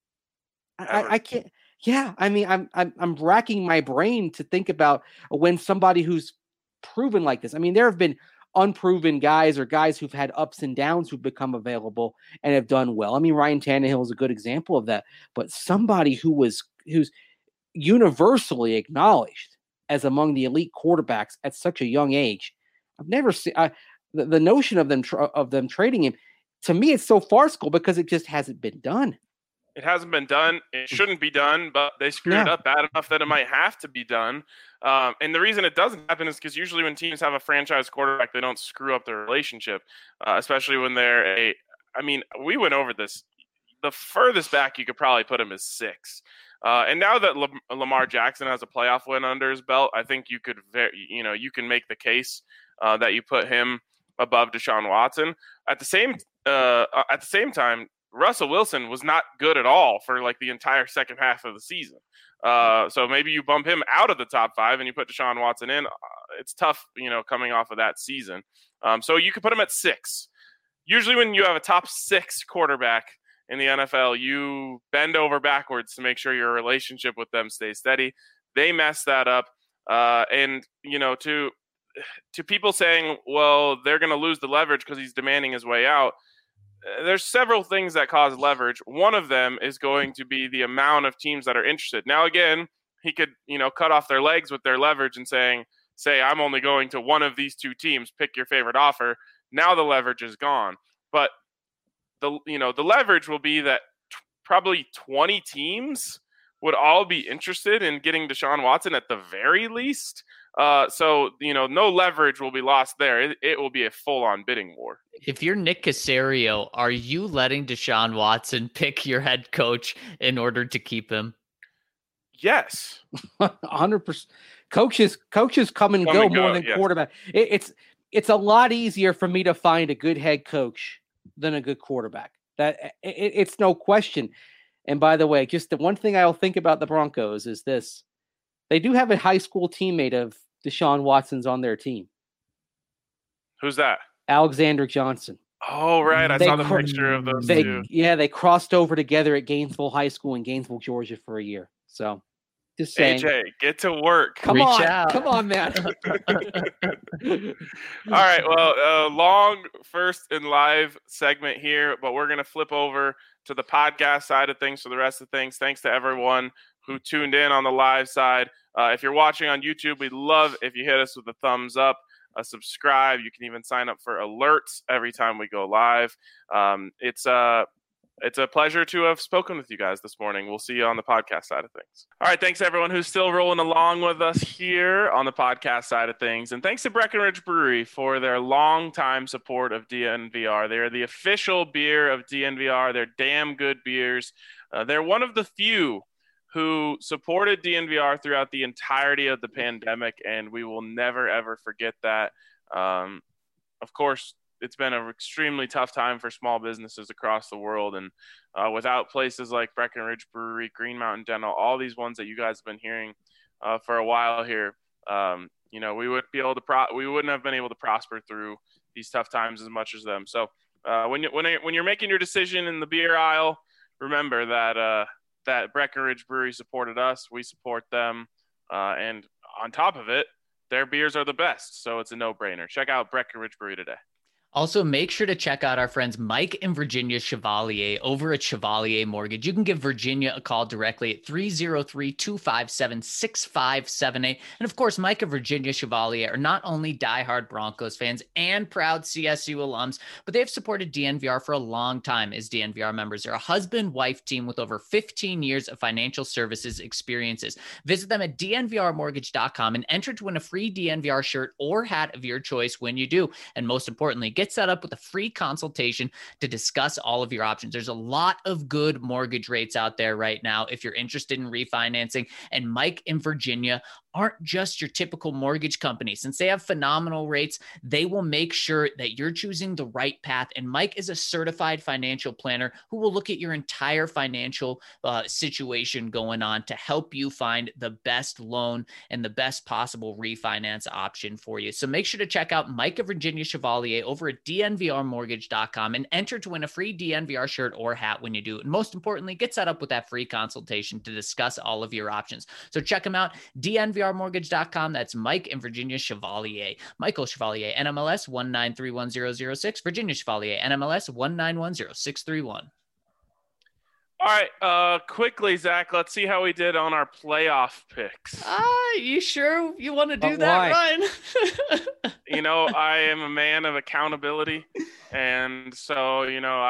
I can't. Yeah, I mean, I'm racking my brain to think about when somebody who's proven like this. I mean, there have been unproven guys or guys who've had ups and downs who've become available and have done well. I mean, Ryan Tannehill is a good example of that, but somebody who's universally acknowledged as among the elite quarterbacks at such a young age, I've never seen the notion of them trading him. To me, it's so farcical because it just hasn't been done. It hasn't been done. It shouldn't be done, but they screwed it up bad enough that it might have to be done. And the reason it doesn't happen is because usually when teams have a franchise quarterback, they don't screw up their relationship, especially when they're we went over this. The furthest back you could probably put him is 6. And now that Lamar Jackson has a playoff win under his belt, I think you could, you can make the case that you put him above Deshaun Watson. At the same time, Russell Wilson was not good at all for like the entire second half of the season. So maybe you bump him out of the top 5 and you put Deshaun Watson in. It's tough, coming off of that season. So you could put him at 6. Usually when you have a top 6 quarterback in the NFL, you bend over backwards to make sure your relationship with them stays steady. They mess that up. And, to people saying, well, they're going to lose the leverage because he's demanding his way out. There's several things that cause leverage. One of them is going to be the amount of teams that are interested. Now, again, he could, cut off their legs with their leverage and say, I'm only going to one of these 2 teams, pick your favorite offer. Now the leverage is gone. But the leverage will be that probably 20 teams would all be interested in getting Deshaun Watson at the very least. So, no leverage will be lost there. It will be a full-on bidding war. If you're Nick Caserio, are you letting Deshaun Watson pick your head coach in order to keep him? Yes. 100%. Coaches come and go more than quarterback. It's a lot easier for me to find a good head coach than a good quarterback. It's no question. And by the way, just the one thing I'll think about the Broncos is this. They do have a high school teammate of Deshaun Watson's on their team. Who's that? Alexander Johnson. Oh, right. I saw the picture of those two. Yeah, they crossed over together at Gainesville High School in Gainesville, Georgia for a year. So, just saying. AJ, get to work. Come on, man. All right. Well, long first and live segment here, but we're going to flip over to the podcast side of things for the rest of things. Thanks to everyone who tuned in on the live side. If you're watching on YouTube, we'd love if you hit us with a thumbs up, a subscribe. You can even sign up for alerts every time we go live. It's It's a pleasure to have spoken with you guys this morning. We'll see you on the podcast side of things. All right. Thanks, everyone who's still rolling along with us here on the podcast side of things. And thanks to Breckenridge Brewery for their longtime support of DNVR. They're the official beer of DNVR. They're damn good beers. They're one of the few who supported DNVR throughout the entirety of the pandemic, and we will never, ever forget that. Of course, it's been an extremely tough time for small businesses across the world. And without places like Breckenridge Brewery, Green Mountain Dental, all these ones that you guys have been hearing for a while here, we wouldn't have been able to prosper through these tough times as much as them. So when you're making your decision in the beer aisle, remember that Breckenridge Brewery supported us. We support them. And on top of it, their beers are the best. So it's a no-brainer. Check out Breckenridge Brewery today. Also, make sure to check out our friends Mike and Virginia Chevalier over at Chevalier Mortgage. You can give Virginia a call directly at 303-257-6578. And of course, Mike and Virginia Chevalier are not only diehard Broncos fans and proud CSU alums, but they've supported DNVR for a long time as DNVR members. They're a husband-wife team with over 15 years of financial services experiences. Visit them at dnvrmortgage.com and enter to win a free DNVR shirt or hat of your choice when you do. And most importantly, get set up with a free consultation to discuss all of your options. There's a lot of good mortgage rates out there right now if you're interested in refinancing. And Mike and Virginia aren't just your typical mortgage company. Since they have phenomenal rates, they will make sure that you're choosing the right path. And Mike is a certified financial planner who will look at your entire financial situation going on to help you find the best loan and the best possible refinance option for you. So make sure to check out Mike and Virginia Chevalier over at dnvrmortgage.com and enter to win a free DNVR shirt or hat when you do. And most importantly, get set up with that free consultation to discuss all of your options. So check them out, dnvrmortgage.com. That's Mike and Virginia Chevalier. Michael Chevalier, NMLS 1931006. Virginia Chevalier, NMLS 1910631. All right, quickly, Zach, let's see how we did on our playoff picks. You sure you want to do that, Ryan? I am a man of accountability. And so,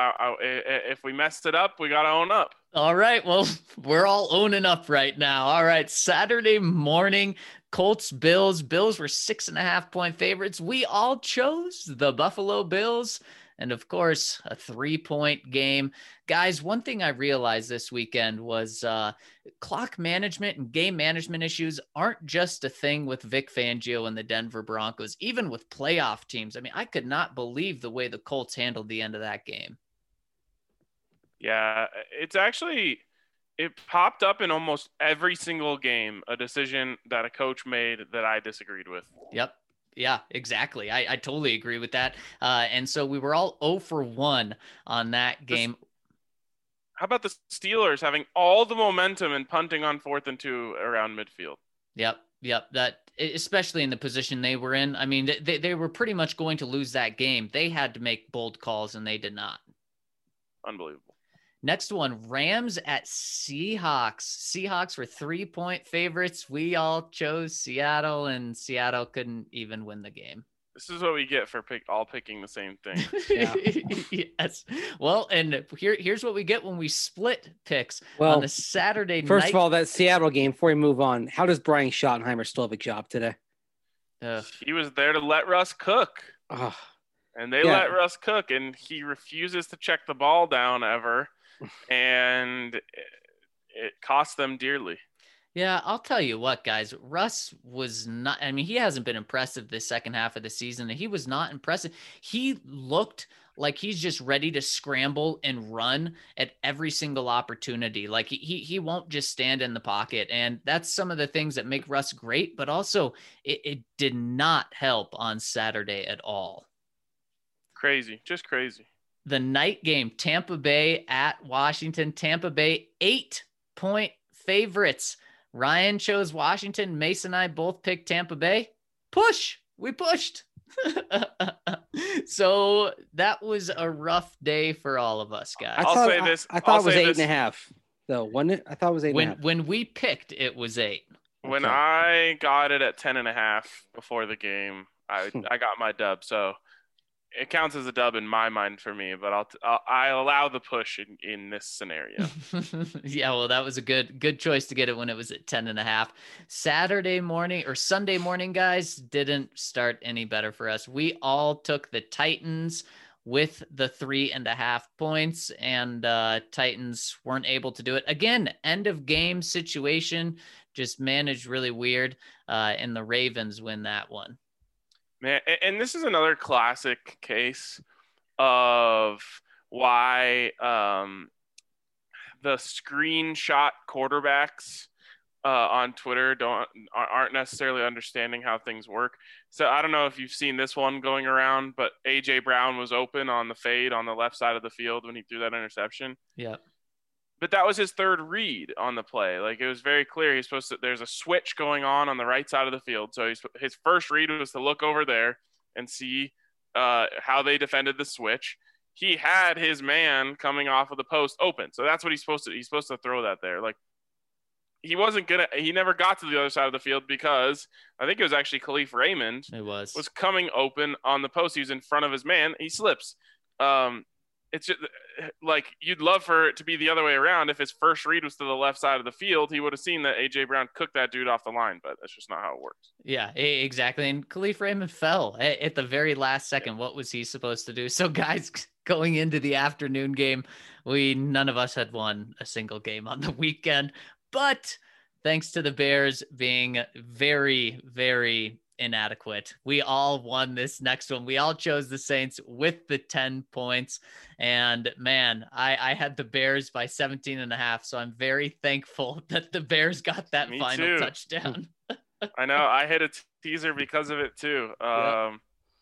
if we messed it up, we got to own up. All right, well, we're all owning up right now. All right, Saturday morning, Colts, Bills. Bills were 6.5-point favorites. We all chose the Buffalo Bills. And of course, a 3-point game. Guys, one thing I realized this weekend was clock management and game management issues aren't just a thing with Vic Fangio and the Denver Broncos, even with playoff teams. I mean, I could not believe the way the Colts handled the end of that game. Yeah, it popped up in almost every single game, a decision that a coach made that I disagreed with. Yep. Yeah, exactly. I totally agree with that. And so we were all 0 for 1 on that game. How about the Steelers having all the momentum and punting on 4th and 2 around midfield? Yep. That, especially in the position they were in. I mean, they were pretty much going to lose that game. They had to make bold calls, and they did not. Unbelievable. Next one, Rams at Seahawks. Seahawks were 3-point favorites. We all chose Seattle, and Seattle couldn't even win the game. This is what we get for picking the same thing. Yeah. Yes. Well, and here's what we get when we split picks on the Saturday night. First of all, that Seattle game, before we move on, how does Brian Schottenheimer still have a job today? He was there to let Russ cook. And they let Russ cook, and he refuses to check the ball down ever. And it cost them dearly. Yeah, I'll tell you what, guys. Russ was not – I mean, he hasn't been impressive this second half of the season. He was not impressive. He looked like he's just ready to scramble and run at every single opportunity. Like he won't just stand in the pocket. And that's some of the things that make Russ great, but also it did not help on Saturday at all. Crazy, just crazy. The night game, Tampa Bay at Washington. Tampa Bay, 8-point favorites. Ryan chose Washington. Mason and I both picked Tampa Bay. We pushed. So that was a rough day for all of us, guys. I thought it was 8.5, though, wasn't it? I thought it was 8.5. When we picked, it was 8. When I got it at 10.5 before the game, I got my dub. So it counts as a dub in my mind for me, but I'll allow the push in this scenario. Yeah, well, that was a good choice to get it when it was at 10.5. Saturday morning or Sunday morning, guys, didn't start any better for us. We all took the Titans with the 3.5 points, and Titans weren't able to do it. Again, end of game situation, just managed really weird, and the Ravens win that one. Man, and this is another classic case of why the screenshot quarterbacks on Twitter aren't necessarily understanding how things work. So I don't know if you've seen this one going around, but AJ Brown was open on the fade on the left side of the field when he threw that interception. Yeah. But that was his third read on the play. Like, it was very clear he's supposed to. There's a switch going on the right side of the field. So his first read was to look over there and see how they defended the switch. He had his man coming off of the post open, so that's what he's supposed to. He's supposed to throw that there. Like, he never got to the other side of the field because I think it was actually Khalif Raymond. It was coming open on the post. He was in front of his man. He slips. It's just like, you'd love for it to be the other way around. If his first read was to the left side of the field, he would have seen that AJ Brown cooked that dude off the line, but that's just not how it works. Yeah, exactly. And Khalif Raymond fell at the very last second. Yeah. What was he supposed to do? So guys, going into the afternoon game, none of us had won a single game on the weekend, but thanks to the Bears being very, very inadequate, we all won this next one. We all chose the Saints with the 10 points, and man, I had the Bears by 17.5, so I'm very thankful that the Bears got that final touchdown. I know, I hit a teaser because of it too. Yep.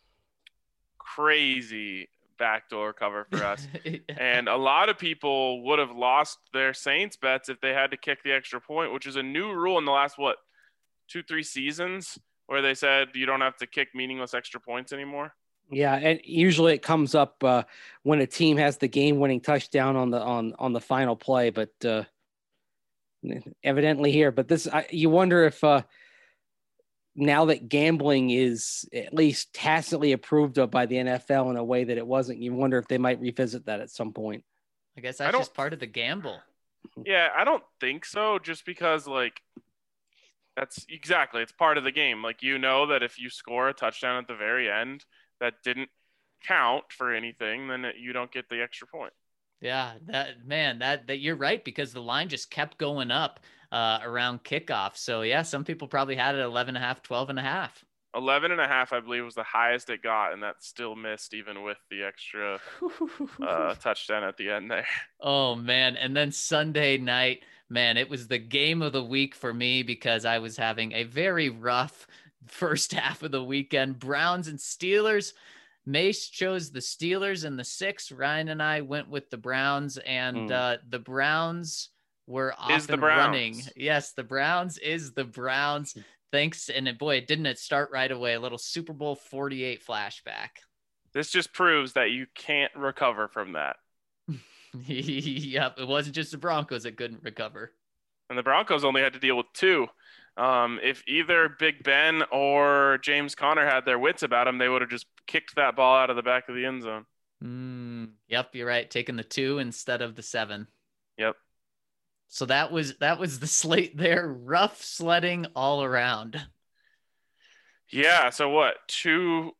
Crazy backdoor cover for us. Yeah. And a lot of people would have lost their Saints bets if they had to kick the extra point, which is a new rule in the last 2-3 seasons, where they said you don't have to kick meaningless extra points anymore. Yeah, and usually it comes up when a team has the game-winning touchdown on the final play, but evidently here. But you wonder if now that gambling is at least tacitly approved of by the NFL in a way that it wasn't, you wonder if they might revisit that at some point. I guess that's just part of the gamble. Yeah, I don't think so, just because, like, it's part of the game. Like, that if you score a touchdown at the very end that didn't count for anything, then you don't get the extra point. Yeah, that you're right, because the line just kept going up around kickoff. So yeah, some people probably had it 11.5, 12.5. 11.5, I believe, was the highest it got, and that still missed even with the extra touchdown at the end there. Oh man. And then Sunday night, man, it was the game of the week for me because I was having a very rough first half of the weekend. Browns and Steelers. Mace chose the Steelers in the 6. Ryan and I went with the Browns, and the Browns were off and running. Yes, the Browns is the Browns. Thanks. And didn't it start right away? A little Super Bowl 48 flashback. This just proves that you can't recover from that. Yep, it wasn't just the Broncos that couldn't recover. And the Broncos only had to deal with 2. If either Big Ben or James Conner had their wits about them, they would have just kicked that ball out of the back of the end zone. Yep, you're right. Taking the 2 instead of the 7. Yep. So that was the slate there. Rough sledding all around. Yeah. So what? 2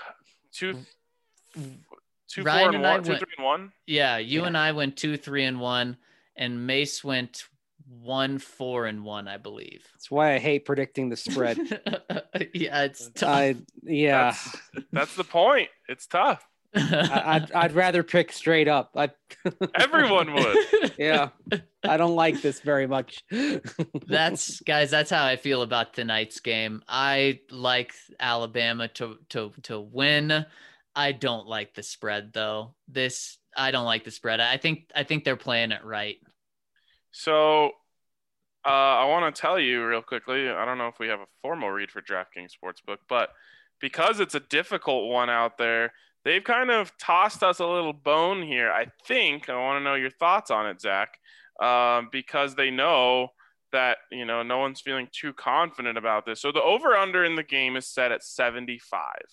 Ryan 4 and 1, 2 3 and 1. Yeah, you and I went 2 3 and 1, and Mace went 1 4 and 1, I believe. That's why I hate predicting the spread. Yeah, it's tough. That's the point. It's tough. I'd rather pick straight up. Everyone would. Yeah, I don't like this very much. That's how I feel about tonight's game. I like Alabama to win. I don't like the spread though. I don't like the spread. I think they're playing it right. So I want to tell you real quickly, I don't know if we have a formal read for DraftKings Sportsbook, but because it's a difficult one out there, they've kind of tossed us a little bone here. I want to know your thoughts on it, Zach, because they know that, no one's feeling too confident about this. So the over-under in the game is set at 75.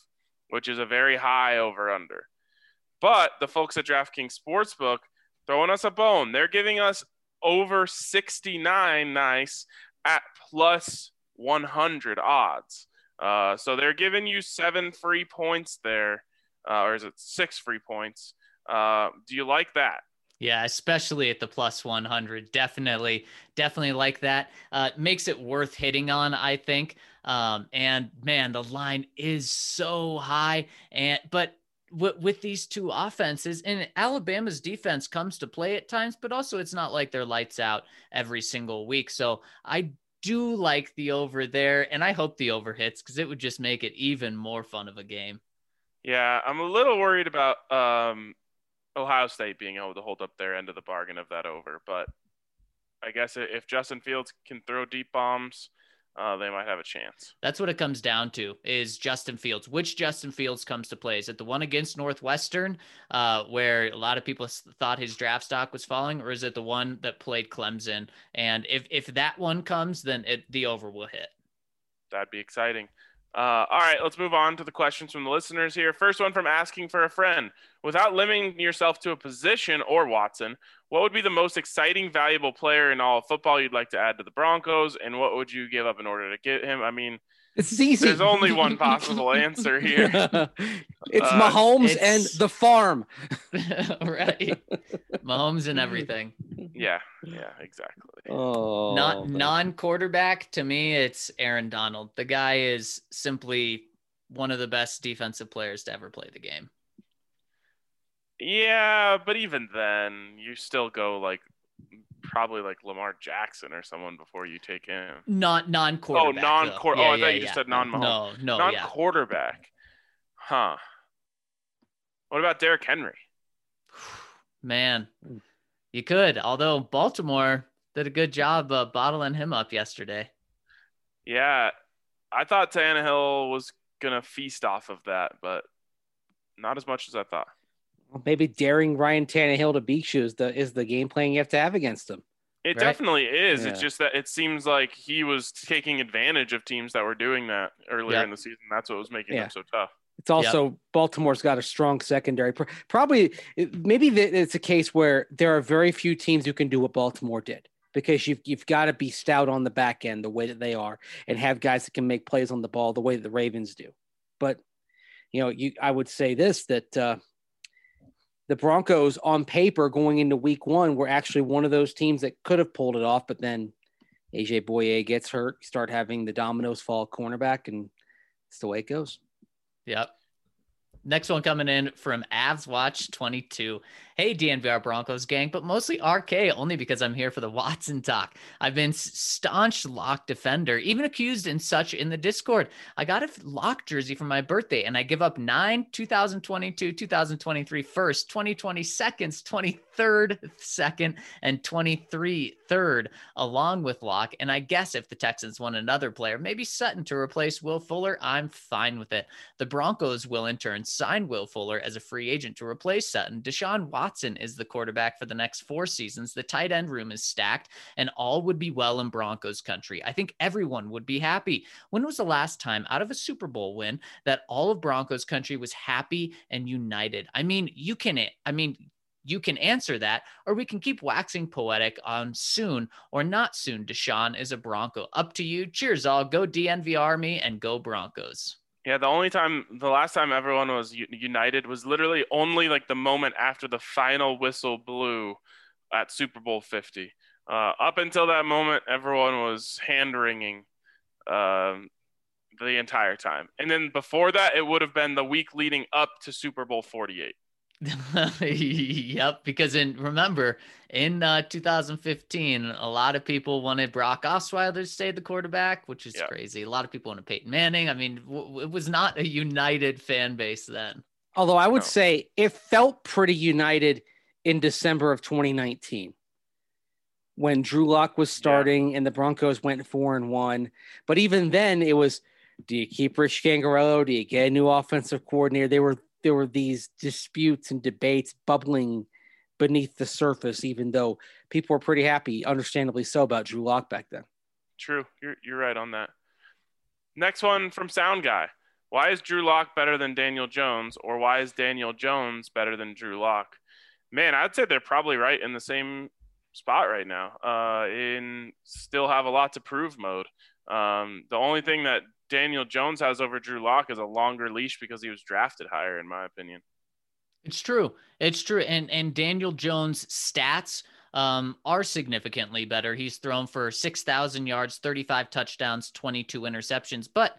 which is a very high over-under. But the folks at DraftKings Sportsbook throwing us a bone. They're giving us over 69 nice at plus 100 odds. So they're giving you 7 free points there, or is it 6 free points? Do you like that? Yeah, especially at the plus 100. Definitely like that. Makes it worth hitting on, I think. And man, the line is so high. But with these two offenses, and Alabama's defense comes to play at times, but also it's not like they're lights out every single week. So I do like the over there, and I hope the over hits because it would just make it even more fun of a game. Yeah, I'm a little worried about Ohio State being able to hold up their end of the bargain of that over, but I guess if Justin Fields can throw deep bombs, they might have a chance. That's what it comes down to, is Justin Fields. Which Justin Fields comes to play? Is it the one against Northwestern, where a lot of people thought his draft stock was falling, or is it the one that played Clemson? And if that one comes, then the over will hit. That'd be exciting. All right, let's move on to the questions from the listeners here. First one from Asking for a Friend. Without limiting yourself to a position or Watson, what would be the most exciting, valuable player in all of football you'd like to add to the Broncos, and what would you give up in order to get him? I mean, it's easy. There's only one possible answer here. It's Mahomes and the farm. Right. Mahomes and everything. Yeah, exactly. Oh, Not non-quarterback, to me, it's Aaron Donald. The guy is simply one of the best defensive players to ever play the game. Yeah, but even then, you still go probably Lamar Jackson or someone before you take him. Not non-quarterback. Oh, non-quarterback. I thought you just said non-Mahomes. No, non-quarterback. Huh. What about Derrick Henry? Man, you could. Although Baltimore did a good job bottling him up yesterday. Yeah, I thought Tannehill was gonna feast off of that, but not as much as I thought. Maybe daring Ryan Tannehill to beat you is the game plan you have to have against him. It definitely is. Yeah. It's just that it seems like he was taking advantage of teams that were doing that earlier in the season. That's what was making them so tough. It's also Baltimore's got a strong secondary. Probably, maybe it's a case where there are very few teams who can do what Baltimore did, because you've got to be stout on the back end the way that they are, and have guys that can make plays on the ball the way that the Ravens do. But I would say this, that the Broncos on paper going into week 1 were actually one of those teams that could have pulled it off, but then AJ Bouye gets hurt, you start having the dominoes fall cornerback, and it's the way it goes. Yep. Next one coming in from Avs Watch 22. Hey, DNVR Broncos gang, but mostly RK, only because I'm here for the Watson talk. I've been staunch Lock defender, even accused and such in the Discord. I got a Lock jersey for my birthday, and I give up 9 2022, 2023 first, 2020 seconds, 23rd second, and 23 third, along with Lock. And I guess if the Texans want another player, maybe Sutton to replace Will Fuller, I'm fine with it. The Broncos will in turn sign Will Fuller as a free agent to replace Sutton. Deshaun Watson is the quarterback for the next 4 seasons. The tight end room is stacked, and all would be well in Broncos country. I think everyone would be happy. When was the last time out of a Super Bowl win that all of Broncos country was happy and united? You can answer that, or we can keep waxing poetic on soon or not soon. Deshaun is a Bronco. Up to you. Cheers all. Go DNV Army and go Broncos. Yeah, the last time everyone was united was literally only the moment after the final whistle blew at Super Bowl 50. Up until that moment, everyone was hand-wringing the entire time. And then before that, it would have been the week leading up to Super Bowl 48. Yep, because remember in 2015, a lot of people wanted Brock Osweiler to stay the quarterback, which is crazy. A lot of people wanted Peyton Manning. It was not a united fan base then. Although I would say it felt pretty united in December of 2019 when Drew Lock was starting and the Broncos went 4-1. But even then, it was, do you keep Rich Scangarello? Do you get a new offensive coordinator? There were these disputes and debates bubbling beneath the surface, even though people were pretty happy, understandably so, about Drew Lock back then. True. You're right on that. Next one from Sound Guy. Why is Drew Lock better than Daniel Jones, or why is Daniel Jones better than Drew Lock? Man, I'd say they're probably right in the same spot right now. In still have a lot to prove mode. The only thing that Daniel Jones has over Drew Lock is a longer leash because he was drafted higher, in my opinion. It's true. It's true. And Daniel Jones' stats are significantly better. He's thrown for 6,000 yards, 35 touchdowns, 22 interceptions. But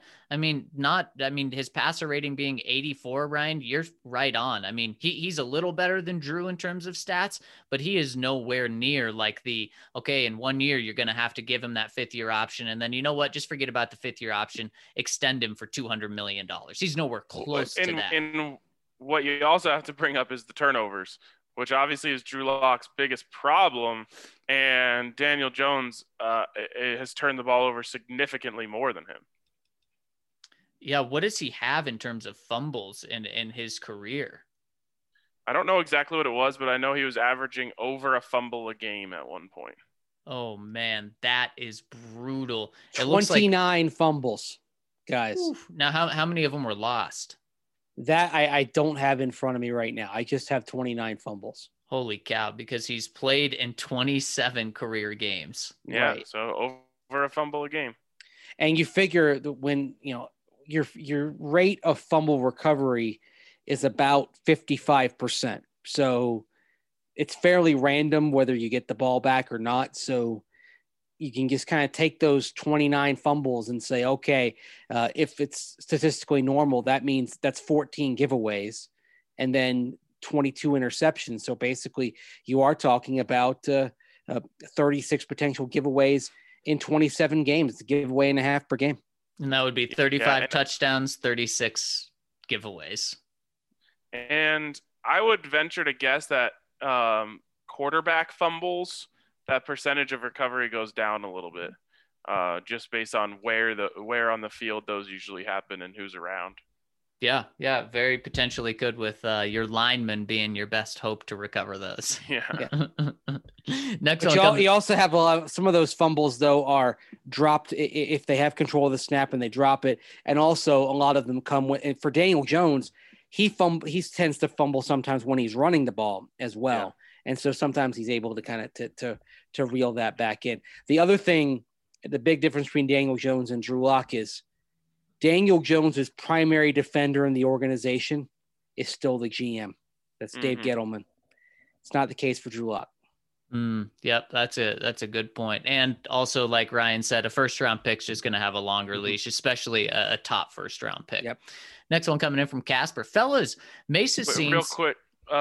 his passer rating being 84, Ryan, you're right on. I mean, he's a little better than Drew in terms of stats, but he is nowhere near like in 1 year, you're going to have to give him that 5th-year option. And then, you know what? Just forget about the 5th-year option. Extend him for $200 million. He's nowhere close to that. And what you also have to bring up is the turnovers, which obviously is Drew Lock's biggest problem. And Daniel Jones has turned the ball over significantly more than him. Yeah, what does he have in terms of fumbles in his career? I don't know exactly what it was, but I know he was averaging over a fumble a game at one point. Oh, man, that is brutal. 29 fumbles, guys. Oof. Now, how many of them were lost? That I don't have in front of me right now. I just have 29 fumbles. Holy cow, because he's played in 27 career games. Yeah, right. So over a fumble a game. And you figure that when, your rate of fumble recovery is about 55%. So it's fairly random whether you get the ball back or not. So you can just kind of take those 29 fumbles and say, okay, if it's statistically normal, that means that's 14 giveaways and then 22 interceptions. So basically you are talking about 36 potential giveaways in 27 games. It's a giveaway and a half per game. And that would be 35 touchdowns, 36 giveaways. And I would venture to guess that quarterback fumbles, that percentage of recovery goes down a little bit, just based on where on the field those usually happen and who's around. Yeah, very potentially could with your lineman being your best hope to recover those. Yeah. Next one. You also have some of those fumbles though are dropped if they have control of the snap and they drop it, and also a lot of them come with. And for Daniel Jones, he tends to fumble sometimes when he's running the ball as well. Yeah. And so sometimes he's able to kind of to reel that back in. The other thing, the big difference between Daniel Jones and Drew Lock is Daniel Jones's primary defender in the organization is still the GM. That's Dave Gettleman. It's not the case for Drew Lock. Yep, that's a good point. And also, like Ryan said, a first-round pick's just going to have a longer leash, especially a top first-round pick. Yep. Next one coming in from Casper. Fellas, Mesa seems... Real quick,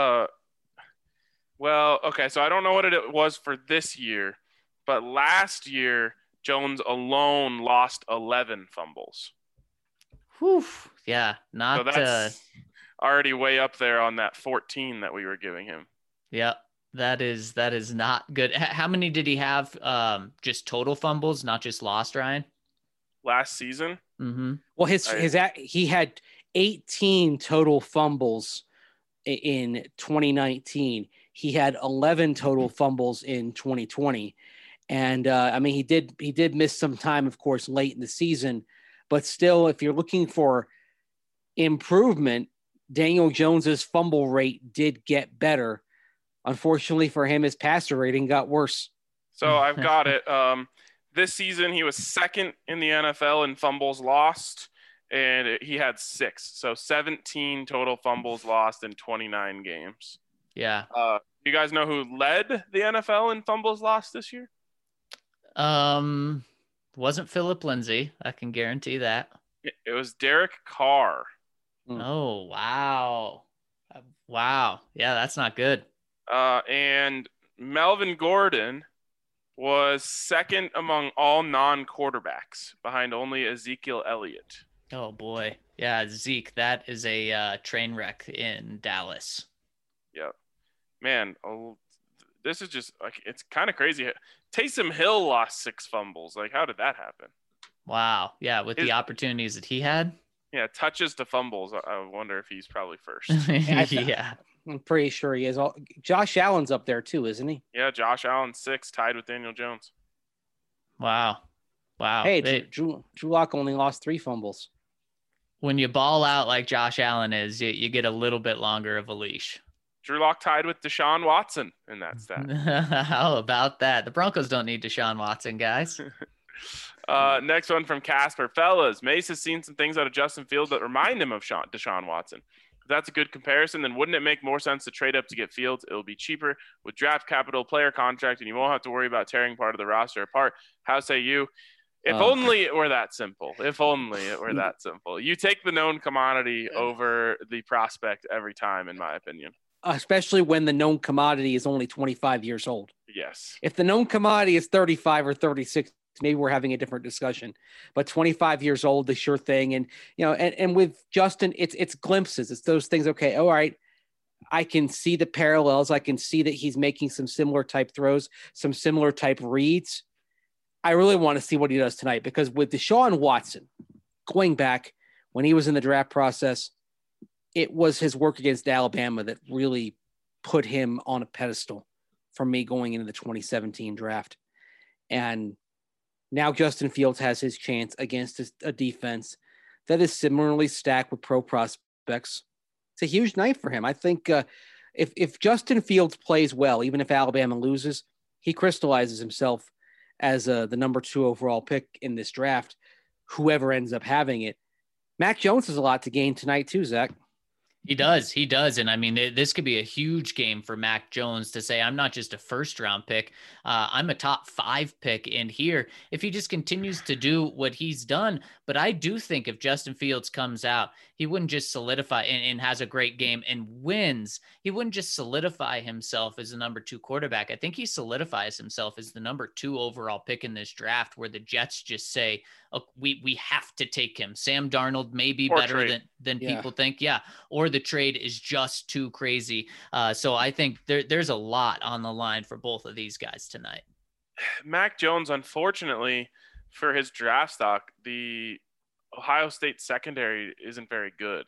well, okay, so I don't know what it was for this year, but last year, Jones alone lost 11 fumbles. Whew. Yeah, not... So that's already way up there on that 14 that we were giving him. Yeah, that is not good. How many did he have just total fumbles, not just lost, Ryan? Last season? Mm-hmm. Well, he had 18 total fumbles in 2019. He had 11 total fumbles in 2020. And he did miss some time, of course, late in the season, but still, if you're looking for improvement, Daniel Jones's fumble rate did get better. Unfortunately for him, his passer rating got worse. So I've got it. This season, he was second in the NFL in fumbles lost, and he had 6. So 17 total fumbles lost in 29 games. Yeah. You guys know who led the NFL in fumbles lost this year? Wasn't Philip Lindsay. I can guarantee that. It was Derek Carr. Oh, wow. Wow. Yeah, that's not good. And Melvin Gordon was second among all non-quarterbacks behind only Ezekiel Elliott. Oh, boy. Yeah, Zeke, that is a train wreck in Dallas. Yep. Man, this is just like, it's kind of crazy. Taysom Hill lost 6 fumbles. Like, how did that happen? Wow. Yeah, with the opportunities that he had. Yeah, touches to fumbles. I wonder if he's probably first. Yeah. I'm pretty sure he is. Josh Allen's up there too, isn't he? Yeah, Josh Allen 6, tied with Daniel Jones. Wow. Hey, Drew Lock only lost 3 fumbles. When you ball out like Josh Allen is, you get a little bit longer of a leash. Drew Lock tied with Deshaun Watson in that stat. How about that? The Broncos don't need Deshaun Watson, guys. Next one from Casper. Fellas, Mace has seen some things out of Justin Fields that remind him of Deshaun Watson. If that's a good comparison, then wouldn't it make more sense to trade up to get Fields? It'll be cheaper with draft capital, player contract, and you won't have to worry about tearing part of the roster apart. How say you? If only it were that simple. If only it were that simple. You take the known commodity over the prospect every time, in my opinion. Especially when the known commodity is only 25 years old. Yes. If the known commodity is 35 or 36, maybe we're having a different discussion. But 25 years old, the sure thing. And, and with Justin, it's glimpses. It's those things. Okay, all right. I can see the parallels. I can see that he's making some similar type throws, some similar type reads. I really want to see what he does tonight, because with Deshaun Watson, going back when he was in the draft process, it was his work against Alabama that really put him on a pedestal for me going into the 2017 draft. And now Justin Fields has his chance against a defense that is similarly stacked with pro prospects. It's a huge night for him. I think if Justin Fields plays well, even if Alabama loses, he crystallizes himself as the number 2 overall pick in this draft, whoever ends up having it. Mac Jones has a lot to gain tonight too, Zach. He does. And I mean, this could be a huge game for Mac Jones to say, I'm not just a first round pick. I'm a top 5 pick in here if he just continues to do what he's done. But I do think if Justin Fields comes out, he wouldn't just solidify and has a great game and wins. He wouldn't just solidify himself as the number 2 quarterback. I think he solidifies himself as the number 2 overall pick in this draft, where the Jets just say, oh, we have to take him. Sam Darnold may be better than people think. Yeah. Or the trade is just too crazy. So I think there's a lot on the line for both of these guys tonight. Mac Jones, unfortunately for his draft stock, the Ohio State secondary isn't very good.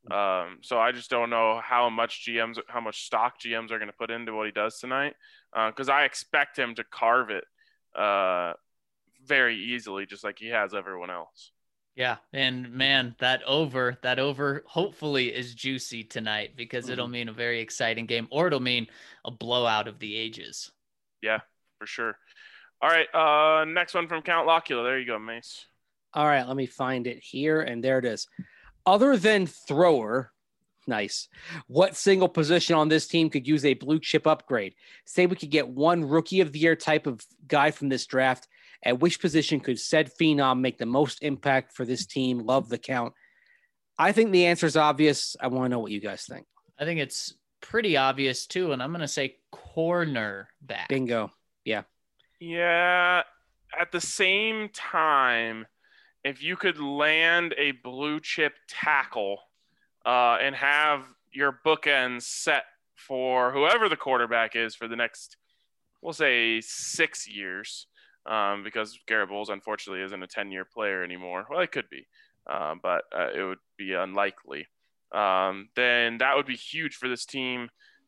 So I just don't know how much stock GMs are going to put into what he does tonight. Cause I expect him to carve it very easily, just like he has everyone else. Yeah. And man, that over hopefully is juicy tonight, because it'll mean a very exciting game, or it'll mean a blowout of the ages. Yeah, for sure. All right. Next one from Count Locula. There you go, Mace. All right. Let me find it here. And there it is. Other than thrower, nice. What single position on this team could use a blue chip upgrade? Say we could get one rookie of the year type of guy from this draft. At which position could said phenom make the most impact for this team? Love the count. I think the answer is obvious. I want to know what you guys think. I think it's pretty obvious too. And I'm going to say cornerback. Bingo. Yeah. Yeah. At the same time, if you could land a blue chip tackle and have your bookends set for whoever the quarterback is for the next, we'll say 6 years, because Garrett Bowles, unfortunately, isn't a 10-year player anymore. Well, it could be, but it would be unlikely. Then that would be huge for this team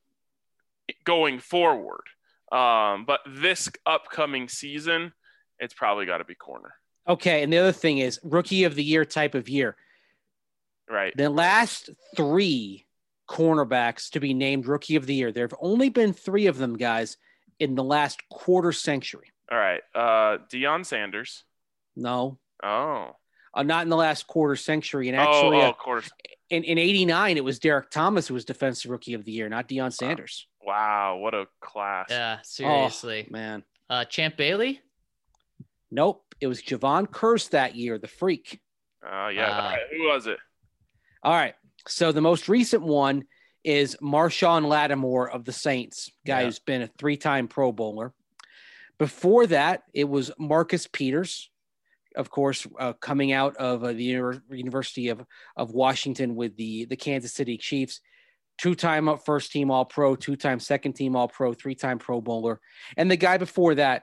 going forward. But this upcoming season, it's probably got to be corner. Okay, and the other thing is rookie of the year type of year. Right. The last 3 cornerbacks to be named rookie of the year, there have only been 3 of them, guys, in the last quarter century. All right. Deion Sanders. No. Oh. Not in the last quarter century. And actually, of course. In 89, it was Derek Thomas who was defensive rookie of the year, not Deion Sanders. Wow. What a class. Yeah, seriously. Oh, man. Champ Bailey? Nope. It was Javon Curse that year, the freak. Oh, yeah. All right. Who was it? All right. So the most recent one is Marshawn Lattimore of the Saints, guy who's been a 3-time Pro Bowler. Before that, it was Marcus Peters, of course, coming out of the University of Washington with the Kansas City Chiefs. 2-time first team All-Pro, 2-time second team All-Pro, 3-time Pro Bowler. And the guy before that,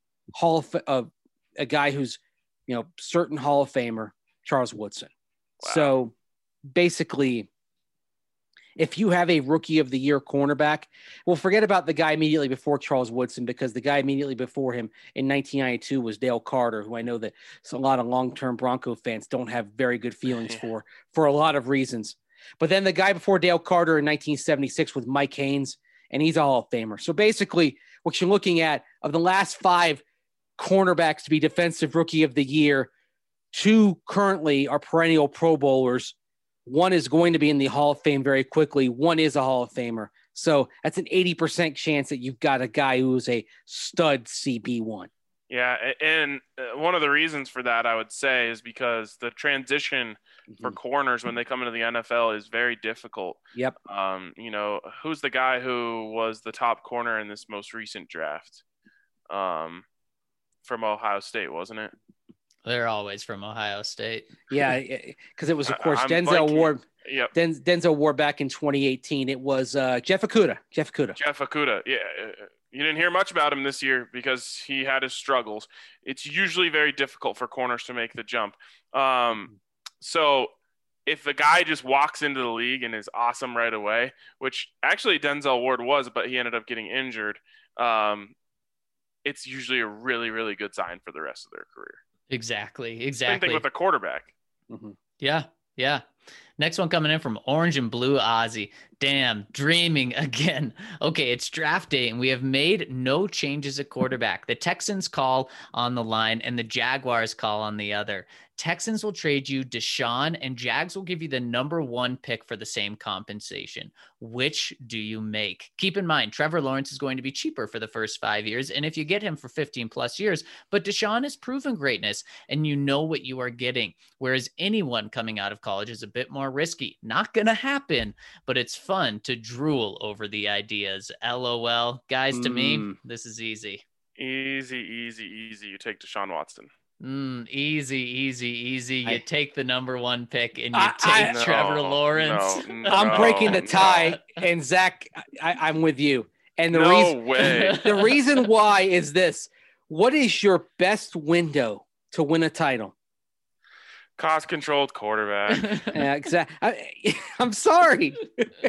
a guy who's, certain Hall of Famer, Charles Woodson. Wow. So basically, if you have a rookie of the year cornerback, well, forget about the guy immediately before Charles Woodson, because the guy immediately before him in 1992 was Dale Carter, who I know that a lot of long-term Bronco fans don't have very good feelings for a lot of reasons. But then the guy before Dale Carter in 1976 was Mike Haynes, and he's a Hall of Famer. So basically what you're looking at, of the last 5 cornerbacks to be defensive rookie of the year, 2 currently are perennial Pro Bowlers. 1 is going to be in the Hall of Fame very quickly. 1 is a Hall of Famer. So that's an 80% chance that you've got a guy who's a stud CB1. Yeah, and one of the reasons for that, I would say, is because the transition for corners when they come into the NFL is very difficult. Yep. Who's the guy who was the top corner in this most recent draft? From Ohio State, wasn't it? They're always from Ohio State. Yeah, because it was, of course, Denzel Ward. Yep. Denzel Ward back in 2018. It was Jeff Okudah. Jeff Okudah. Yeah. You didn't hear much about him this year because he had his struggles. It's usually very difficult for corners to make the jump. So if the guy just walks into the league and is awesome right away, which actually Denzel Ward was, but he ended up getting injured, it's usually a really, really good sign for the rest of their career. Exactly. Same thing with a quarterback. Mm-hmm. Yeah. Next one coming in from Orange and Blue Ozzy. Damn, dreaming again. Okay, it's draft day, and we have made no changes at quarterback. The Texans call on the line, and the Jaguars call on the other. Texans will trade you Deshaun, and Jags will give you the number 1 pick for the same compensation. Which do you make? Keep in mind, Trevor Lawrence is going to be cheaper for the first 5 years, and if you get him for 15 plus years, but Deshaun has proven greatness, and you know what you are getting, whereas anyone coming out of college is a bit more risky. Not going to happen, but it's fun to drool over the ideas. LOL. Guys, to me, this is easy. Easy. You take Deshaun Watson. Easy. You take the number 1 pick and you take Trevor Lawrence. I'm breaking the tie, and Zach, I'm with you. And the the reason why is this: what is your best window to win a title? Cost-controlled quarterback. Yeah, exactly. I'm sorry.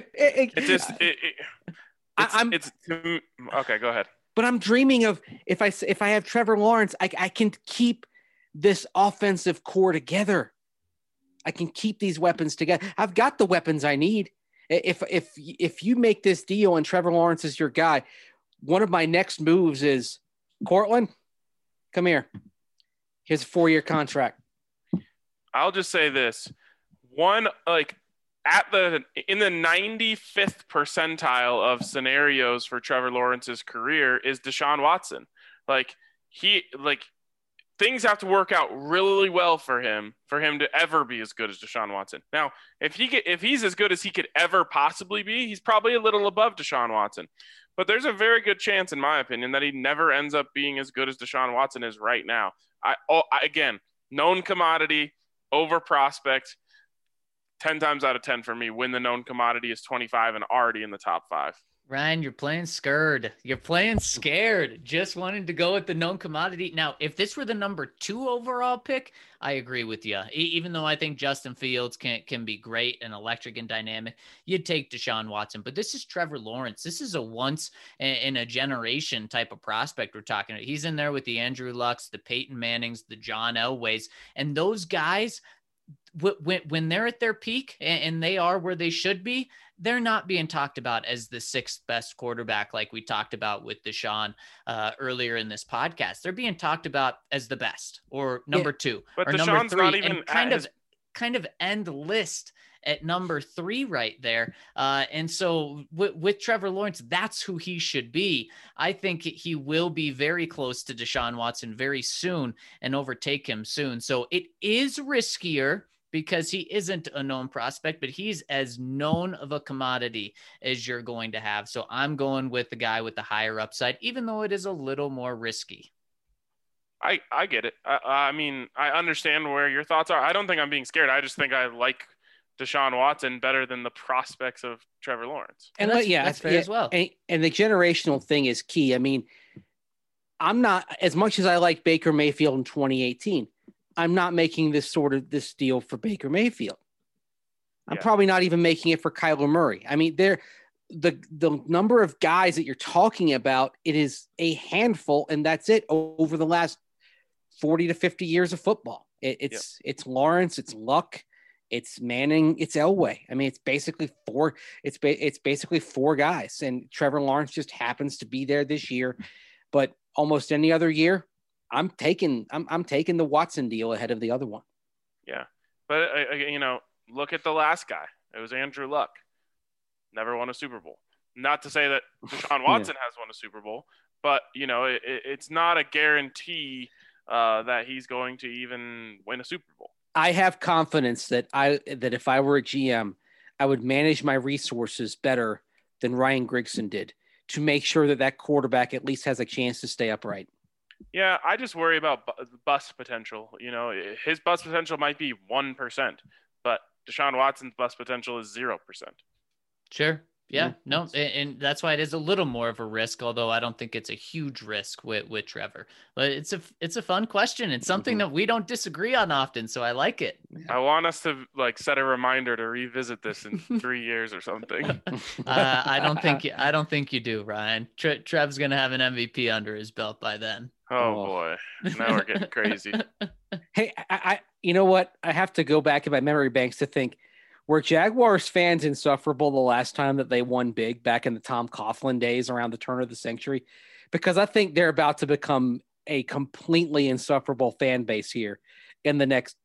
Okay. Go ahead. But I'm dreaming of if I have Trevor Lawrence, I can keep this offensive core together. I can keep these weapons together. I've got the weapons I need. If you make this deal and Trevor Lawrence is your guy, one of my next moves is, Cortland, come here. Here's a 4-year contract. I'll just say this. In the 95th percentile of scenarios for Trevor Lawrence's career is Deshaun Watson. Things have to work out really well for him to ever be as good as Deshaun Watson. Now, if he's as good as he could ever possibly be, he's probably a little above Deshaun Watson. But there's a very good chance, in my opinion, that he never ends up being as good as Deshaun Watson is right now. Again, known commodity over prospect. 10 times out of 10 for me, when the known commodity is 25 and already in the top 5. Ryan, you're playing scared. Just wanting to go with the known commodity. Now, if this were the number 2 overall pick, I agree with you. Even though I think Justin Fields can be great and electric and dynamic, you'd take Deshaun Watson. But this is Trevor Lawrence. This is a once in a generation type of prospect we're talking about. He's in there with the Andrew Lucks, the Peyton Mannings, the John Elways, and those guys, when they're at their peak and they are where they should be, they're not being talked about as the 6th best quarterback like we talked about with Deshaun earlier in this podcast. They're being talked about as the best or number 2 but or Deshaun's number 3, not even and kind of end list at number 3 right there. And so with Trevor Lawrence, that's who he should be. I think he will be very close to Deshaun Watson very soon and overtake him soon. So it is riskier because he isn't a known prospect, but he's as known of a commodity as you're going to have. So I'm going with the guy with the higher upside, even though it is a little more risky. I get it. I mean, I understand where your thoughts are. I don't think I'm being scared. I just think I like Deshaun Watson better than the prospects of Trevor Lawrence. And that's fair as well. And the generational thing is key. I mean, I'm not, as much as I like Baker Mayfield in 2018, I'm not making this deal for Baker Mayfield. I'm probably not even making it for Kyler Murray. I mean, the number of guys that you're talking about, it is a handful, and that's it over the last 40 to 50 years of football. It's Lawrence, it's Luck, it's Manning, it's Elway. I mean, it's basically four. It's basically four guys, and Trevor Lawrence just happens to be there this year. But almost any other year, I'm taking the Watson deal ahead of the other one. Yeah, but look at the last guy. It was Andrew Luck. Never won a Super Bowl. Not to say that Deshaun Watson has won a Super Bowl, but it's not a guarantee that he's going to even win a Super Bowl. I have confidence that if I were a GM, I would manage my resources better than Ryan Grigson did to make sure that quarterback at least has a chance to stay upright. Yeah, I just worry about bust potential. His bust potential might be 1%, but Deshaun Watson's bust potential is 0%. Sure. Yeah, no, and that's why it is a little more of a risk, although I don't think it's a huge risk with Trevor. But it's a fun question. It's something that we don't disagree on often, so I like it. I want us to set a reminder to revisit this in 3 years or something. I don't think you do, Ryan. Trev's gonna have an MVP under his belt by then. Oh boy, now we're getting crazy. Hey, I you know what? I have to go back in my memory banks to think. Were Jaguars fans insufferable the last time that they won big back in the Tom Coughlin days around the turn of the century? Because I think they're about to become a completely insufferable fan base here in the next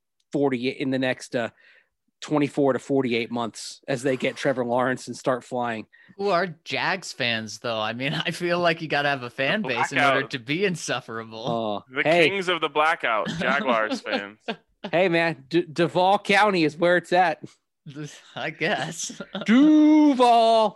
24 to 48 months as they get Trevor Lawrence and start flying. Who are Jags fans, though? I mean, I feel like you got to have a fan base in order to be insufferable. Kings of the blackout, Jaguars fans. Hey, man, Duval County is where it's at. I guess. Duval.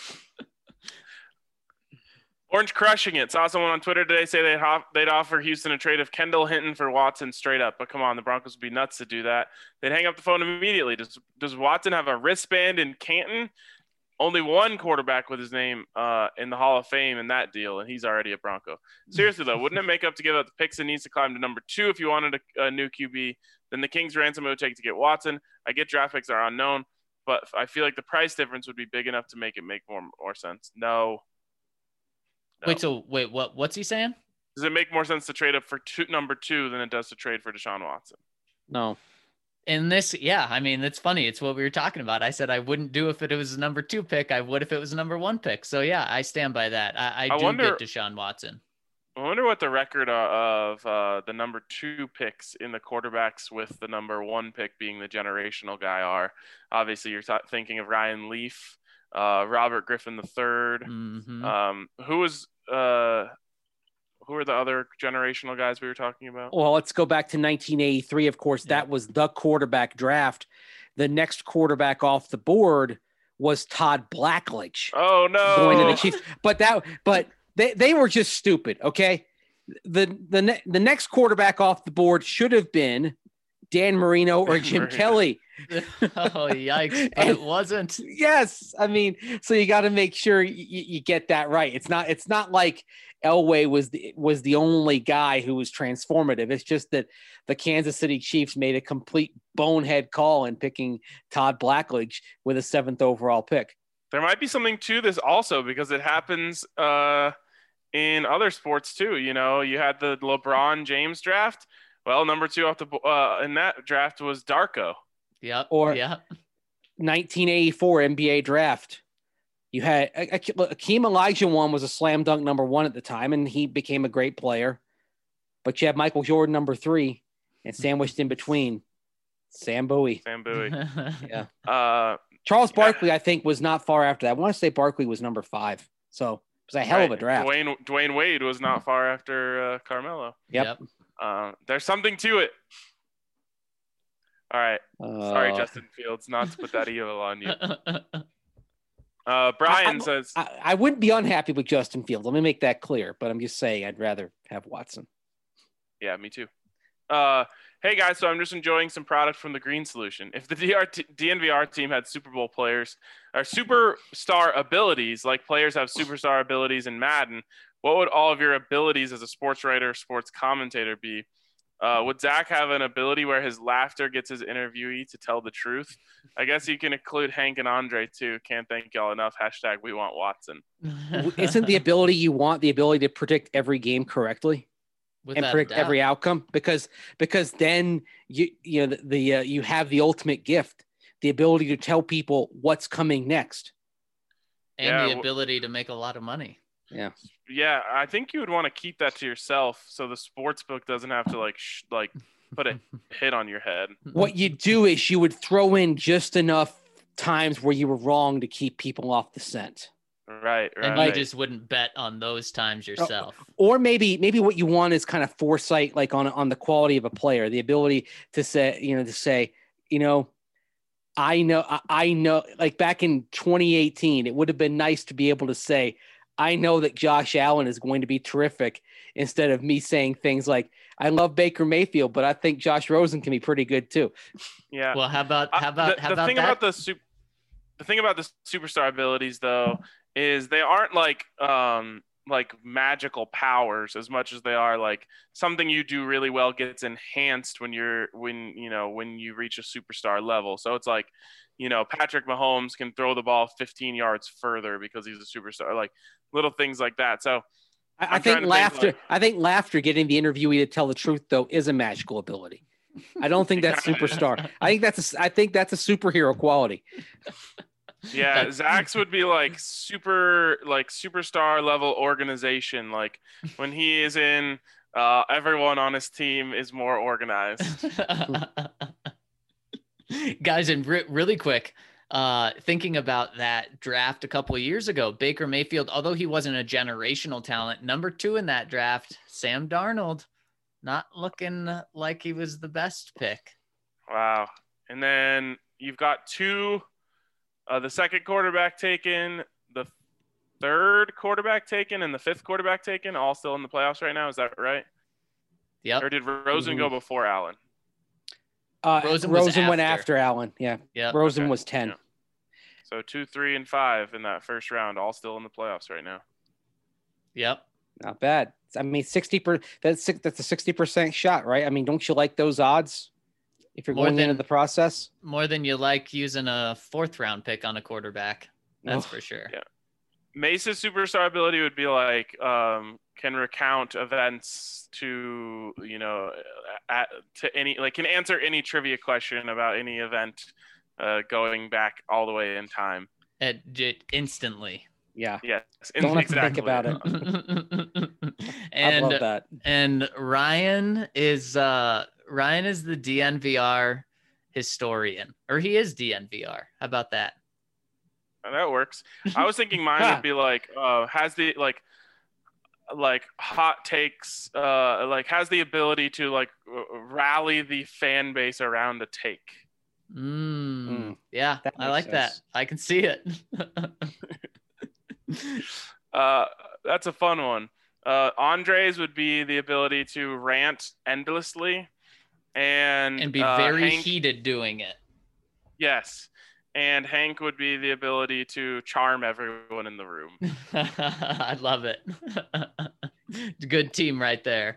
Orange crushing it. Saw someone on Twitter today say they'd offer Houston a trade of Kendall Hinton for Watson straight up. But come on, the Broncos would be nuts to do that. They'd hang up the phone immediately. Does Watson have a wristband in Canton? Only one quarterback with his name in the Hall of Fame in that deal, and he's already a Bronco. Seriously, though, wouldn't it make up to give up the picks and needs to climb to number 2 if you wanted a new QB? Then the Kings ransom it would take to get Watson. I get draft picks are unknown, but I feel like the price difference would be big enough to make it make more sense. No. Wait, what's he saying? Does it make more sense to trade up for number 2 than it does to trade for Deshaun Watson? No. In this, yeah, I mean, it's funny. It's what we were talking about. I said I wouldn't do if it was a number 2 pick. I would if it was a number 1 pick. So, yeah, I stand by that. I do get Deshaun Watson. I wonder what the record of the number 2 picks in the quarterbacks with the number 1 pick being the generational guy are. Obviously, you're thinking of Ryan Leaf, Robert Griffin III. Mm-hmm. Who are the other generational guys we were talking about? Well, let's go back to 1983. Of course, that was the quarterback draft. The next quarterback off the board was Todd Blackledge. Oh no! Going to the Chiefs, but they were just stupid. Okay, the next quarterback off the board should have been Dan Marino or Jim Kelly. Oh, yikes. But it wasn't. Yes. I mean, so you got to make sure you get that right. It's not like Elway was the only guy who was transformative. It's just that the Kansas City Chiefs made a complete bonehead call in picking Todd Blackledge with a 7th overall pick. There might be something to this also because it happens in other sports too. You had the LeBron James draft. Well, number 2 off in that draft was Darko. Yeah. 1984 NBA draft. You had Akeem Olajuwon was a slam dunk number 1 at the time, and he became a great player. But you have Michael Jordan number 3, and sandwiched in between, Sam Bowie. Yeah. Charles Barkley, I think, was not far after that. I want to say Barkley was number 5. So it was a hell of a draft. Dwayne Wade was not far after Carmelo. Yep. There's something to it. All right. Sorry, Justin Fields, not to put that evil on you. Brian says I wouldn't be unhappy with Justin Fields. Let me make that clear. But I'm just saying I'd rather have Watson. Yeah, me too. Hey guys, so I'm just enjoying some product from the Green Solution. If the DNVR team had Super Bowl players or superstar abilities, like players have superstar abilities in Madden, what would all of your abilities as a sports writer, sports commentator be? Would Zach have an ability where his laughter gets his interviewee to tell the truth? I guess you can include Hank and Andre too. Can't thank y'all enough. # we want Watson. Isn't the ability you want the ability to predict every game correctly? And predict every outcome? Because then you have the ultimate gift, the ability to tell people what's coming next. And the ability to make a lot of money. Yeah, I think you would want to keep that to yourself so the sports book doesn't have to like put a hit on your head. What you do is you would throw in just enough times where you were wrong to keep people off the scent. Right. And you just wouldn't bet on those times yourself. Or maybe what you want is kind of foresight, like on the quality of a player, the ability to say, I know, like back in 2018, it would have been nice to be able to say, I know that Josh Allen is going to be terrific, instead of me saying things like, I love Baker Mayfield, but I think Josh Rosen can be pretty good too. Yeah. Well, how about the thing about the superstar abilities though is they aren't like magical powers as much as they are like something you do really well gets enhanced when you reach a superstar level. So it's like, Patrick Mahomes can throw the ball 15 yards further because he's a superstar, like little things like that. So I think laughter getting the interviewee to tell the truth though is a magical ability. I don't think that's superstar. I think that's a superhero quality. Yeah, Zach's would be like superstar level organization. Like when he is in, everyone on his team is more organized. Guys, and really quick, thinking about that draft a couple of years ago, Baker Mayfield, although he wasn't a generational talent, number 2 in that draft, Sam Darnold, not looking like he was the best pick. Wow. And then you've got the second quarterback taken, the third quarterback taken, and the fifth quarterback taken, all still in the playoffs right now. Is that right? Yep. Or did Rosen go before Allen? Rosen went after Allen. Yeah. Rosen was 10. Yeah. So 2, 3, and 5 in that first round, all still in the playoffs right now. Yep. Not bad. I mean, 60%. That's a 60% shot, right? I mean, don't you like those odds if you're going into the process? More than you like using a 4th round pick on a quarterback. That's for sure. Yeah. Mace's superstar ability would be like can recount events to to any, like can answer any trivia question about any event going back all the way in time. Instantly. Yeah. Yes. Don't have to think about it. And, I love that. And Ryan is the DNVR historian, or he is DNVR. How about that? That works. I was thinking mine would be like has the like hot takes, like has the ability to like rally the fan base around a take. Yeah, I like that. I can see it. That's a fun one. Andre's would be the ability to rant endlessly and be very heated doing it. Yes. And Hank would be the ability to charm everyone in the room. I love it. Good team right there.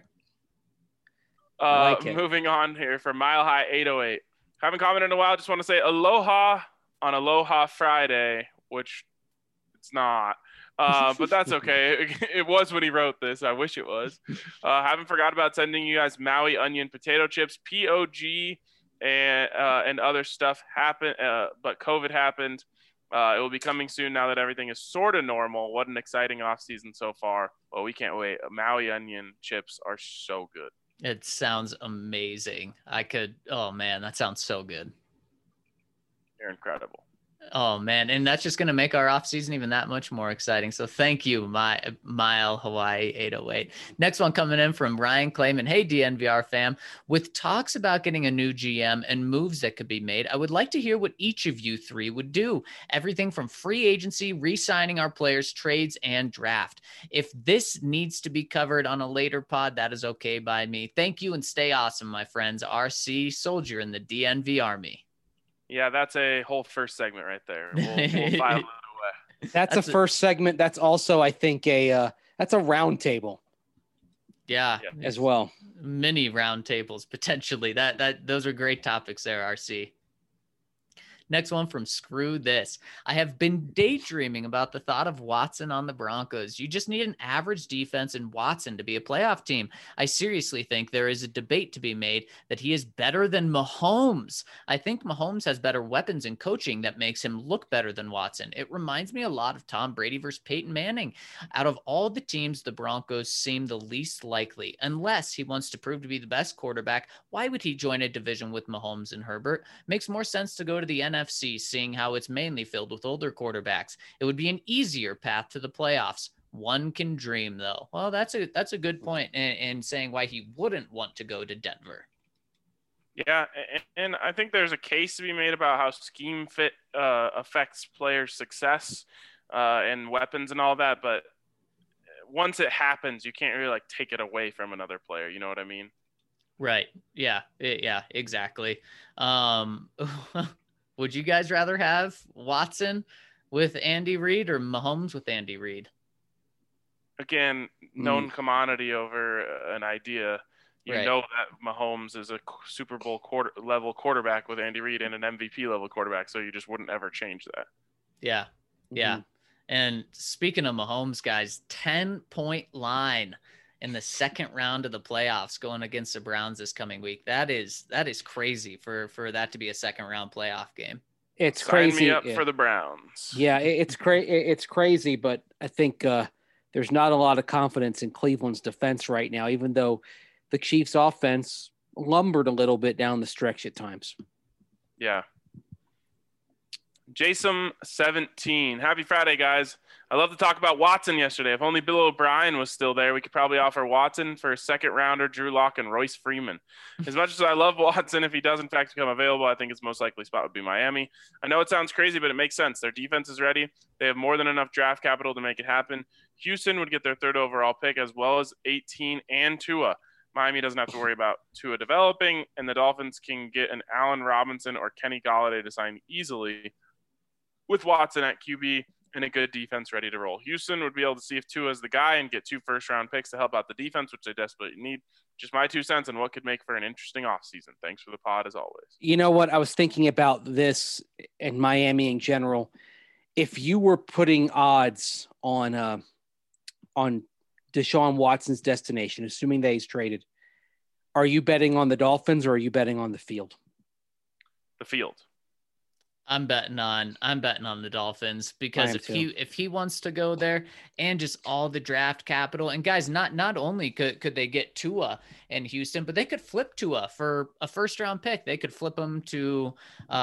Moving on here for Mile High 808. Haven't commented in a while. Just want to say aloha on Aloha Friday, which it's not. But that's okay. It was when he wrote this. I wish it was. Haven't forgot about sending you guys Maui onion potato chips, POG, and other stuff happened, but COVID happened. It will be coming soon now that everything is sort of normal. What an exciting off season so far. Well, we can't wait. Maui onion chips are so good. It sounds amazing. Oh man, that sounds so good. They're incredible. Oh man, and that's just going to make our off season even that much more exciting. So thank you, Mile Hawaii 808. Next one coming in from Ryan Clayman. Hey DNVR fam, with talks about getting a new GM and moves that could be made, I would like to hear what each of you three would do. Everything from free agency, re-signing our players, trades, and draft. If this needs to be covered on a later pod, that is okay by me. Thank you and stay awesome, my friends. RC Soldier in the DNV Army. Yeah, that's a whole first segment right there. We'll file it away. That's a first segment. That's also, I think, that's a round table. Yeah, as well. mini roundtables potentially. Those are great topics there, RC. Next one from Screw This. I have been daydreaming about the thought of Watson on the Broncos. You just need an average defense and Watson to be a playoff team. I seriously think there is a debate to be made that he is better than Mahomes. I think Mahomes has better weapons and coaching that makes him look better than Watson. It reminds me a lot of Tom Brady versus Peyton Manning. Out of all the teams, the Broncos seem the least likely. Unless he wants to prove to be the best quarterback, why would he join a division with Mahomes and Herbert? Makes more sense to go to the NFC, seeing how it's mainly filled with older quarterbacks. It would be an easier path to the playoffs. One can dream, though. Well, that's a good point in saying why he wouldn't want to go to Denver. Yeah, and I think there's a case to be made about how scheme fit affects players' success and weapons and all that. But once it happens, you can't really take it away from another player. You know what I mean? Right. Yeah. Yeah, exactly. Would you guys rather have Watson with Andy Reid or Mahomes with Andy Reid? Again, known commodity over an idea. You know that Mahomes is a Super Bowl level quarterback with Andy Reid and an MVP level quarterback, so you just wouldn't ever change that. Yeah. Yeah. And speaking of Mahomes, guys, 10-point line in the second round of the playoffs going against the Browns this coming week. That is crazy for that to be a second round playoff game. It's crazy. Sign me up for the Browns. Yeah, it's crazy, but I think there's not a lot of confidence in Cleveland's defense right now, even though the Chiefs offense lumbered a little bit down the stretch at times. Yeah. Jason 17. Happy Friday, guys. I love to talk about Watson yesterday. If only Bill O'Brien was still there, we could probably offer Watson for a second rounder, Drew Lock and Royce Freeman. As much as I love Watson, if he does in fact become available, I think his most likely spot would be Miami. I know it sounds crazy, but it makes sense. Their defense is ready. They have more than enough draft capital to make it happen. Houston would get their third overall pick as well as 18 and Tua. Miami doesn't have to worry about Tua developing, and the Dolphins can get an Allen Robinson or Kenny Golladay to sign easily with Watson at QB and a good defense ready to roll. Houston would be able to see if Tua is the guy and get 2 first-round picks to help out the defense, which they desperately need. Just my 2 cents on what could make for an interesting offseason. Thanks for the pod, as always. You know what? I was thinking about this in Miami in general. If you were putting odds on Deshaun Watson's destination, assuming that he's traded, are you betting on the Dolphins or are you betting on the field? The field. I'm betting on the Dolphins because if he wants to go there and just all the draft capital, and guys, not only could they get Tua in Houston, but they could flip Tua for a first round pick. They could flip him to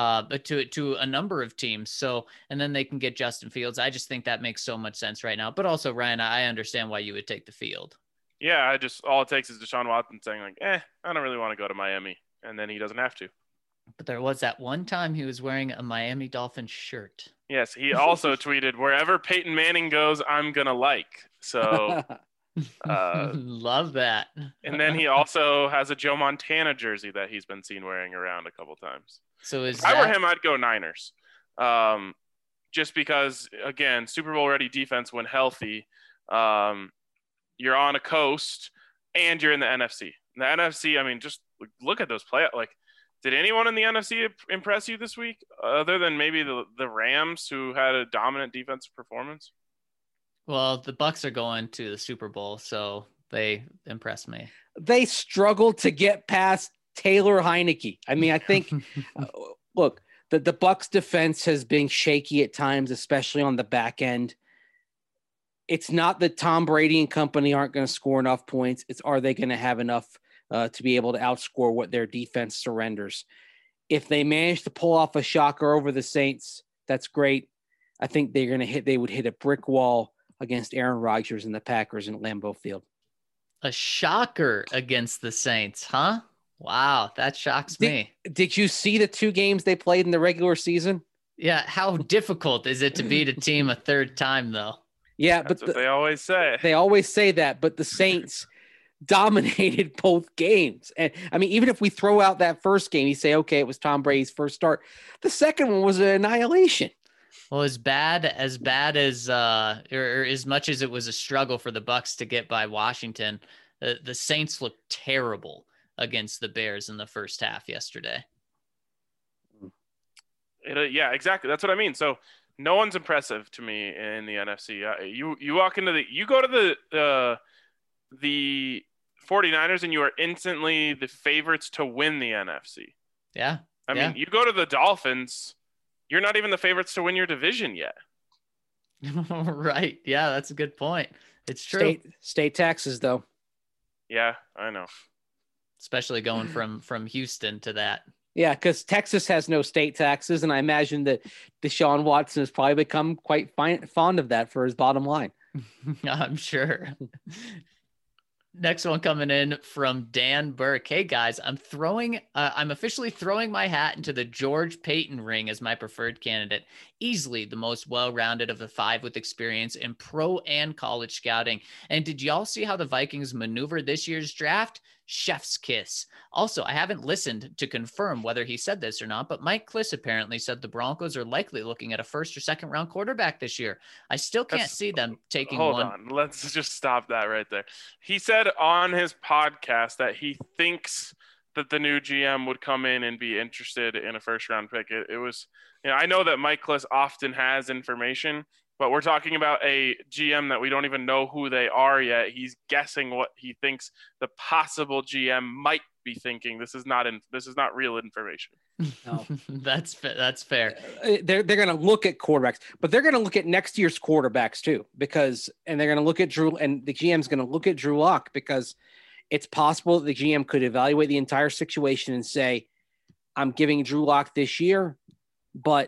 a number of teams. So, and then they can get Justin Fields. I just think that makes so much sense right now. But also, Ryan, I understand why you would take the field. Yeah, all it takes is Deshaun Watson saying I don't really want to go to Miami, and then he doesn't have to. But there was that one time he was wearing a Miami Dolphins shirt. Yes, he also tweeted, "Wherever Peyton Manning goes, I'm gonna like." So, love that. And then he also has a Joe Montana jersey that he's been seen wearing around a couple times. So if I were him, I'd go Niners. Just because, again, Super Bowl ready defense when healthy. You're on a coast, and you're in the NFC. The NFC, I mean, just look at those play. Did anyone in the NFC impress you this week, other than maybe the Rams, who had a dominant defensive performance? Well, the Bucs are going to the Super Bowl, so they impressed me. They struggled to get past Taylor Heineke. I mean, I think, look, the Bucs defense has been shaky at times, especially on the back end. It's not that Tom Brady and company aren't going to score enough points. It's, are they going to have enough to be able to outscore what their defense surrenders? If they manage to pull off a shocker over the Saints, that's great. I think they would hit a brick wall against Aaron Rodgers and the Packers in Lambeau Field. A shocker against the Saints, huh? Wow, that shocks me. Did you see the 2 games they played in the regular season? Yeah, how difficult is it to beat a team a third time, though? Yeah, that's what they always say. They always say that, but the Saints dominated both games. And I mean, even if we throw out that first game, you say, okay, it was Tom Brady's first start. The second one was an annihilation. Well, as bad as or as much as it was a struggle for the Bucs to get by Washington, The Saints looked terrible against the Bears in the first half yesterday. Yeah, exactly. That's what I mean. So no one's impressive to me in the NFC. You walk into you go to the 49ers and you are instantly the favorites to win the NFC. Yeah. I mean, you go to the Dolphins, you're not even the favorites to win your division yet. Right. Yeah, that's a good point. It's true. State taxes, though. Yeah, I know. Especially going from Houston to that. Yeah, because Texas has no state taxes, and I imagine that Deshaun Watson has probably become quite fond of that for his bottom line. I'm sure. Next one coming in from Dan Burke. Hey guys, I'm officially throwing my hat into the George Paton ring as my preferred candidate. Easily the most well-rounded of the 5 with experience in pro and college scouting. And did y'all see how the Vikings maneuvered this year's draft? Chef's kiss. Also, I haven't listened to confirm whether he said this or not, but Mike Kliss apparently said the Broncos are likely looking at a first or second round quarterback this year. I still can't see them taking one. Hold on. Let's just stop that right there. He said on his podcast that he thinks that the new GM would come in and be interested in a first round pick. It was, I know that Mike Kliss often has information, but we're talking about a GM that we don't even know who they are yet. He's guessing what he thinks the possible GM might be thinking. This is not real information. No. That's fair. They're going to look at quarterbacks, but they're going to look at next year's quarterbacks too, and they're going to look at Drew, and the GM's going to look at Drew Lock, because it's possible that the GM could evaluate the entire situation and say, I'm giving Drew Lock this year, but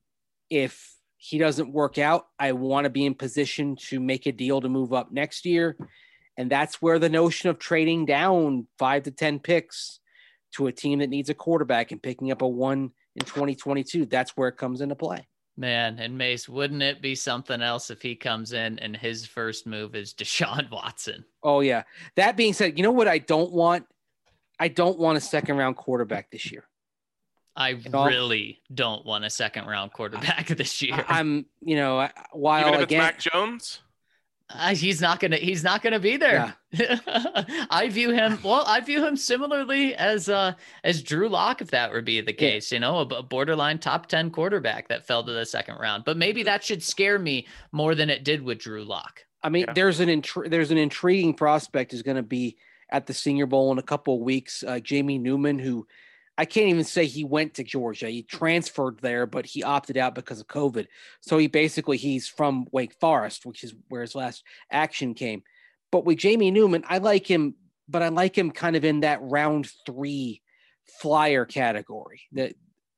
if he doesn't work out, I want to be in position to make a deal to move up next year. And that's where the notion of trading down 5 to 10 picks to a team that needs a quarterback and picking up a 1 in 2022, that's where it comes into play. Man, and Mace, wouldn't it be something else if he comes in and his first move is Deshaun Watson? Oh, yeah. That being said, you know what I don't want? I don't want a second round quarterback this year. I really don't want a second round quarterback this year. I'm, while even if it's Mac Jones, he's not gonna be there. Yeah. I view him similarly as Drew Lock, if that would be the case. A borderline top 10 quarterback that fell to the second round. But maybe that should scare me more than it did with Drew Lock. I mean, there's an intriguing prospect is going to be at the Senior Bowl in a couple of weeks. Jamie Newman, who I can't even say he went to Georgia. He transferred there, but he opted out because of COVID. So he's from Wake Forest, which is where his last action came. But with Jamie Newman, I like him, but I like him kind of in that round 3 flyer category. That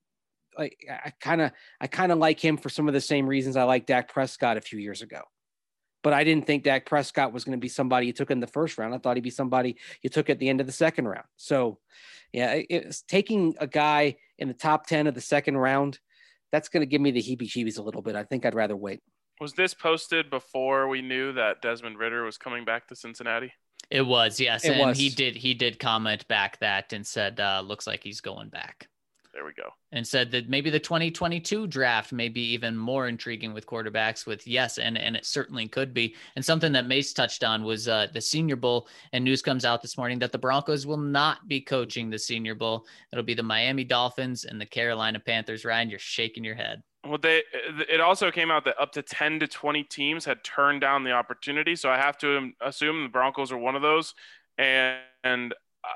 I kind of like him for some of the same reasons I like Dak Prescott a few years ago. But I didn't think Dak Prescott was going to be somebody you took in the first round. I thought he'd be somebody you took at the end of the second round. So, yeah, it's taking a guy in the top 10 of the second round. That's going to give me the heebie-jeebies a little bit. I think I'd rather wait. Was this posted before we knew that Desmond Ridder was coming back to Cincinnati? It was, yes. He did comment back that and said, looks like he's going back. There we go. And said that maybe the 2022 draft may be even more intriguing with quarterbacks and it certainly could be. And something that Mace touched on was the Senior Bowl, and news comes out this morning that the Broncos will not be coaching the Senior Bowl. It'll be the Miami Dolphins and the Carolina Panthers. Ryan, you're shaking your head. Well, it also came out that up to 10 to 20 teams had turned down the opportunity. So I have to assume the Broncos are one of those. And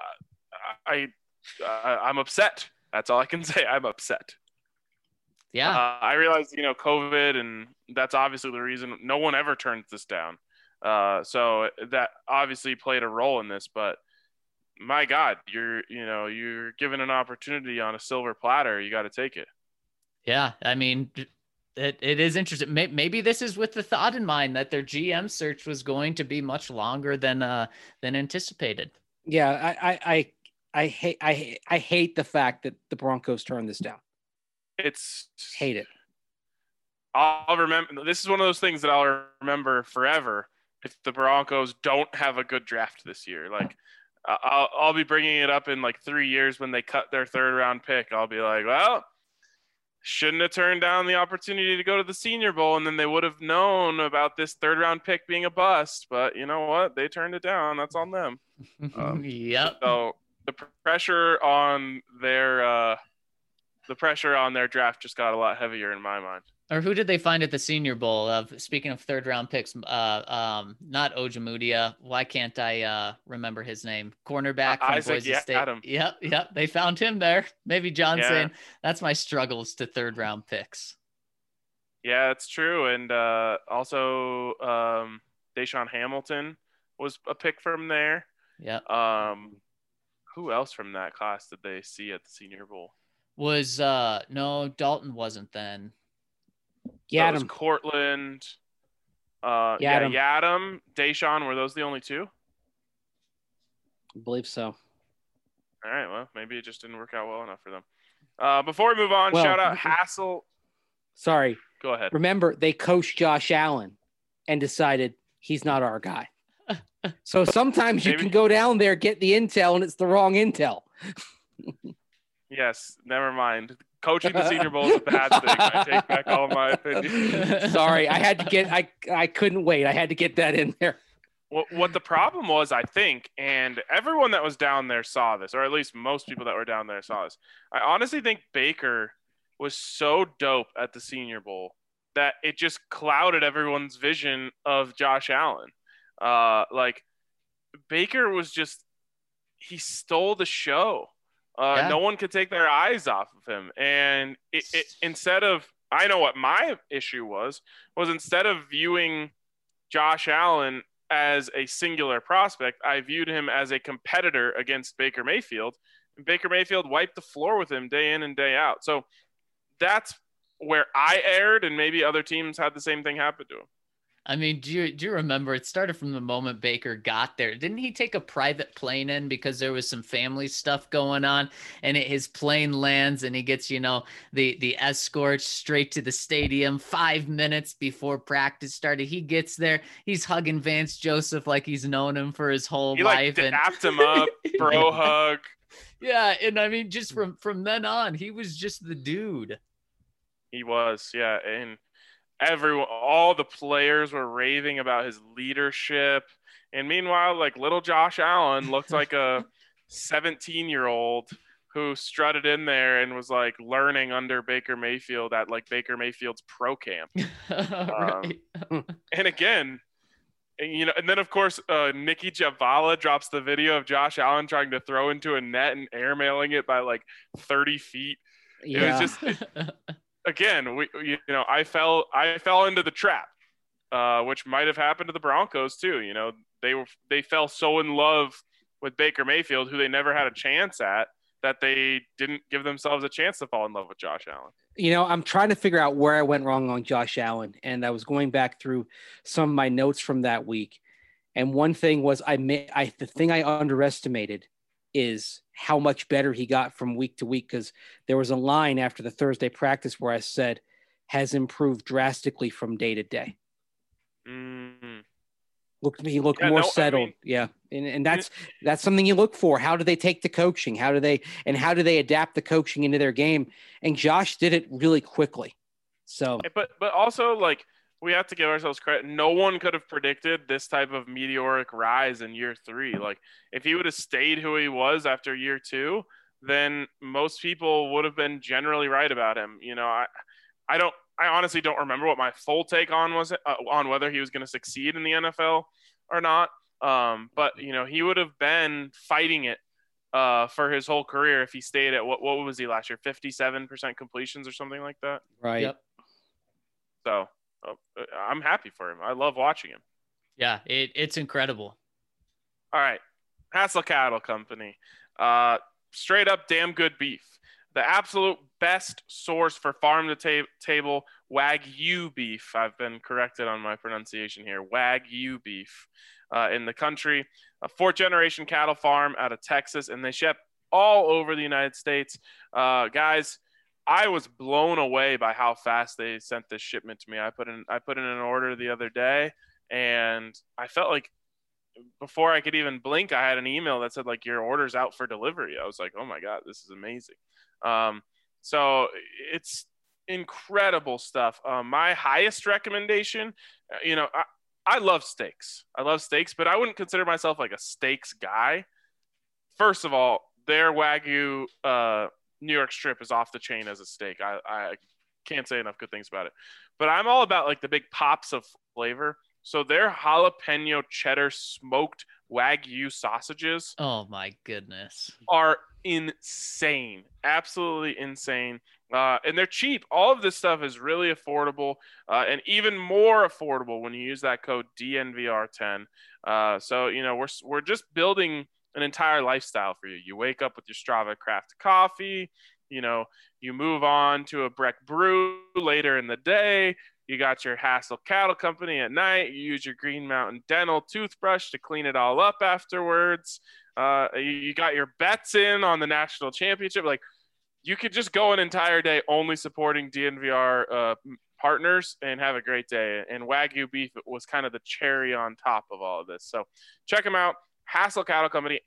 I'm upset. That's all I can say. I'm upset. Yeah. I realize, COVID, and that's obviously the reason no one ever turns this down. So that obviously played a role in this, but my God, you're given an opportunity on a silver platter. You got to take it. Yeah. I mean, it is interesting. Maybe this is with the thought in mind that their GM search was going to be much longer than anticipated. Yeah. I hate the fact that the Broncos turned this down. Hate it. I'll remember. This is one of those things that I'll remember forever. If the Broncos don't have a good draft this year, like I'll be bringing it up in like 3 years when they cut their third round pick. I'll be like, well, shouldn't have turned down the opportunity to go to the Senior Bowl, and then they would have known about this third round pick being a bust. But you know what? They turned it down. That's on them. Yep. So the pressure on their draft just got a lot heavier in my mind. Or who did they find at the Senior Bowl? Speaking of third round picks, not Ojemudia. Why can't I remember his name? Cornerback from Isaac Boise State. Adam. Yep. They found him there. Maybe John saying that's my struggles to third round picks. Yeah, it's true. And also Deshaun Hamilton was a pick from there. Yeah. Who else from that class did they see at the Senior Bowl? Was no, Dalton wasn't then. Yadam. Cortland. Yadam, Deshaun, were those the only two? I believe so. All right, well, maybe it just didn't work out well enough for them. Before we move on, shout out Hassel. Sorry. Go ahead. Remember, they coached Josh Allen and decided he's not our guy. So sometimes you can go down there, get the intel, and it's the wrong intel. Yes, never mind. Coaching the Senior Bowl is a bad thing. I take back all my opinions. Sorry, I couldn't wait. I had to get that in there. What the problem was, I think, and everyone that was down there saw this, or at least most people that were down there saw this. I honestly think Baker was so dope at the Senior Bowl that it just clouded everyone's vision of Josh Allen. Like Baker was just, he stole the show. No one could take their eyes off of him. And it instead of, I know what my issue was instead of viewing Josh Allen as a singular prospect, I viewed him as a competitor against Baker Mayfield. And Baker Mayfield wiped the floor with him day in and day out. So that's where I erred, and maybe other teams had the same thing happen to him. I mean, do you remember it started from the moment Baker got there? Didn't he take a private plane in because there was some family stuff going on, and his plane lands and he gets, the escort straight to the stadium 5 minutes before practice started. He gets there. He's hugging Vance Joseph like he's known him for his whole life. He dapped him up, bro hug. Yeah, and I mean, just from then on, he was just the dude. He was, yeah, and all the players were raving about his leadership, and meanwhile, like little Josh Allen looked like a 17-year-old who strutted in there and was like learning under Baker Mayfield at like Baker Mayfield's pro camp. Right. And again, and then of course Nikki Javala drops the video of Josh Allen trying to throw into a net and airmailing it by like 30 feet. Yeah. It was just again, I fell into the trap, which might have happened to the Broncos too. They fell so in love with Baker Mayfield, who they never had a chance at, that they didn't give themselves a chance to fall in love with Josh Allen. I'm trying to figure out where I went wrong on Josh Allen, and I was going back through some of my notes from that week, and one thing was the thing I underestimated is how much better he got from week to week, because there was a line after the Thursday practice where I said has improved drastically from day to day. He looked more settled. And that's something you look for. How do they take the coaching? How do they adapt the coaching into their game? And Josh did it really quickly. So, but also, like, we have to give ourselves credit. No one could have predicted this type of meteoric rise in year 3. Like, if he would have stayed who he was after year 2, then most people would have been generally right about him. I honestly don't remember what my full take on was on whether he was going to succeed in the NFL or not. But he would have been fighting it for his whole career if he stayed at what was he last year? 57% completions or something like that. Right. Yep. So I'm happy for him. I love watching him. Yeah, it's incredible. All right. Hassel Cattle Company. Straight up damn good beef. The absolute best source for farm-to-table Wagyu beef. I've been corrected on my pronunciation here. Wagyu beef in the country. A 4th-generation cattle farm out of Texas, and they ship all over the United States. Guys, I was blown away by how fast they sent this shipment to me. I put in an order the other day, and I felt like before I could even blink, I had an email that said, like, your order's out for delivery. I was like, oh my God, this is amazing. So it's incredible stuff. My highest recommendation, I love steaks. But I wouldn't consider myself like a steaks guy. First of all, their Wagyu New York strip is off the chain as a steak. I can't say enough good things about it. But I'm all about like the big pops of flavor. So their jalapeno cheddar smoked Wagyu sausages, oh my goodness, are insane. Absolutely insane. And they're cheap. All of this stuff is really affordable, and even more affordable when you use that code DNVR10. So we're just building an entire lifestyle for you. You wake up with your Strava Craft coffee. You move on to a Breck Brew later in the day. You got your Hassel Cattle Company at night. You use your Green Mountain Dental toothbrush to clean it all up afterwards. You got your bets in on the national championship. Like, you could just go an entire day only supporting DNVR partners and have a great day. And Wagyu beef was kind of the cherry on top of all of this. So check them out. Hassel Cattle Company,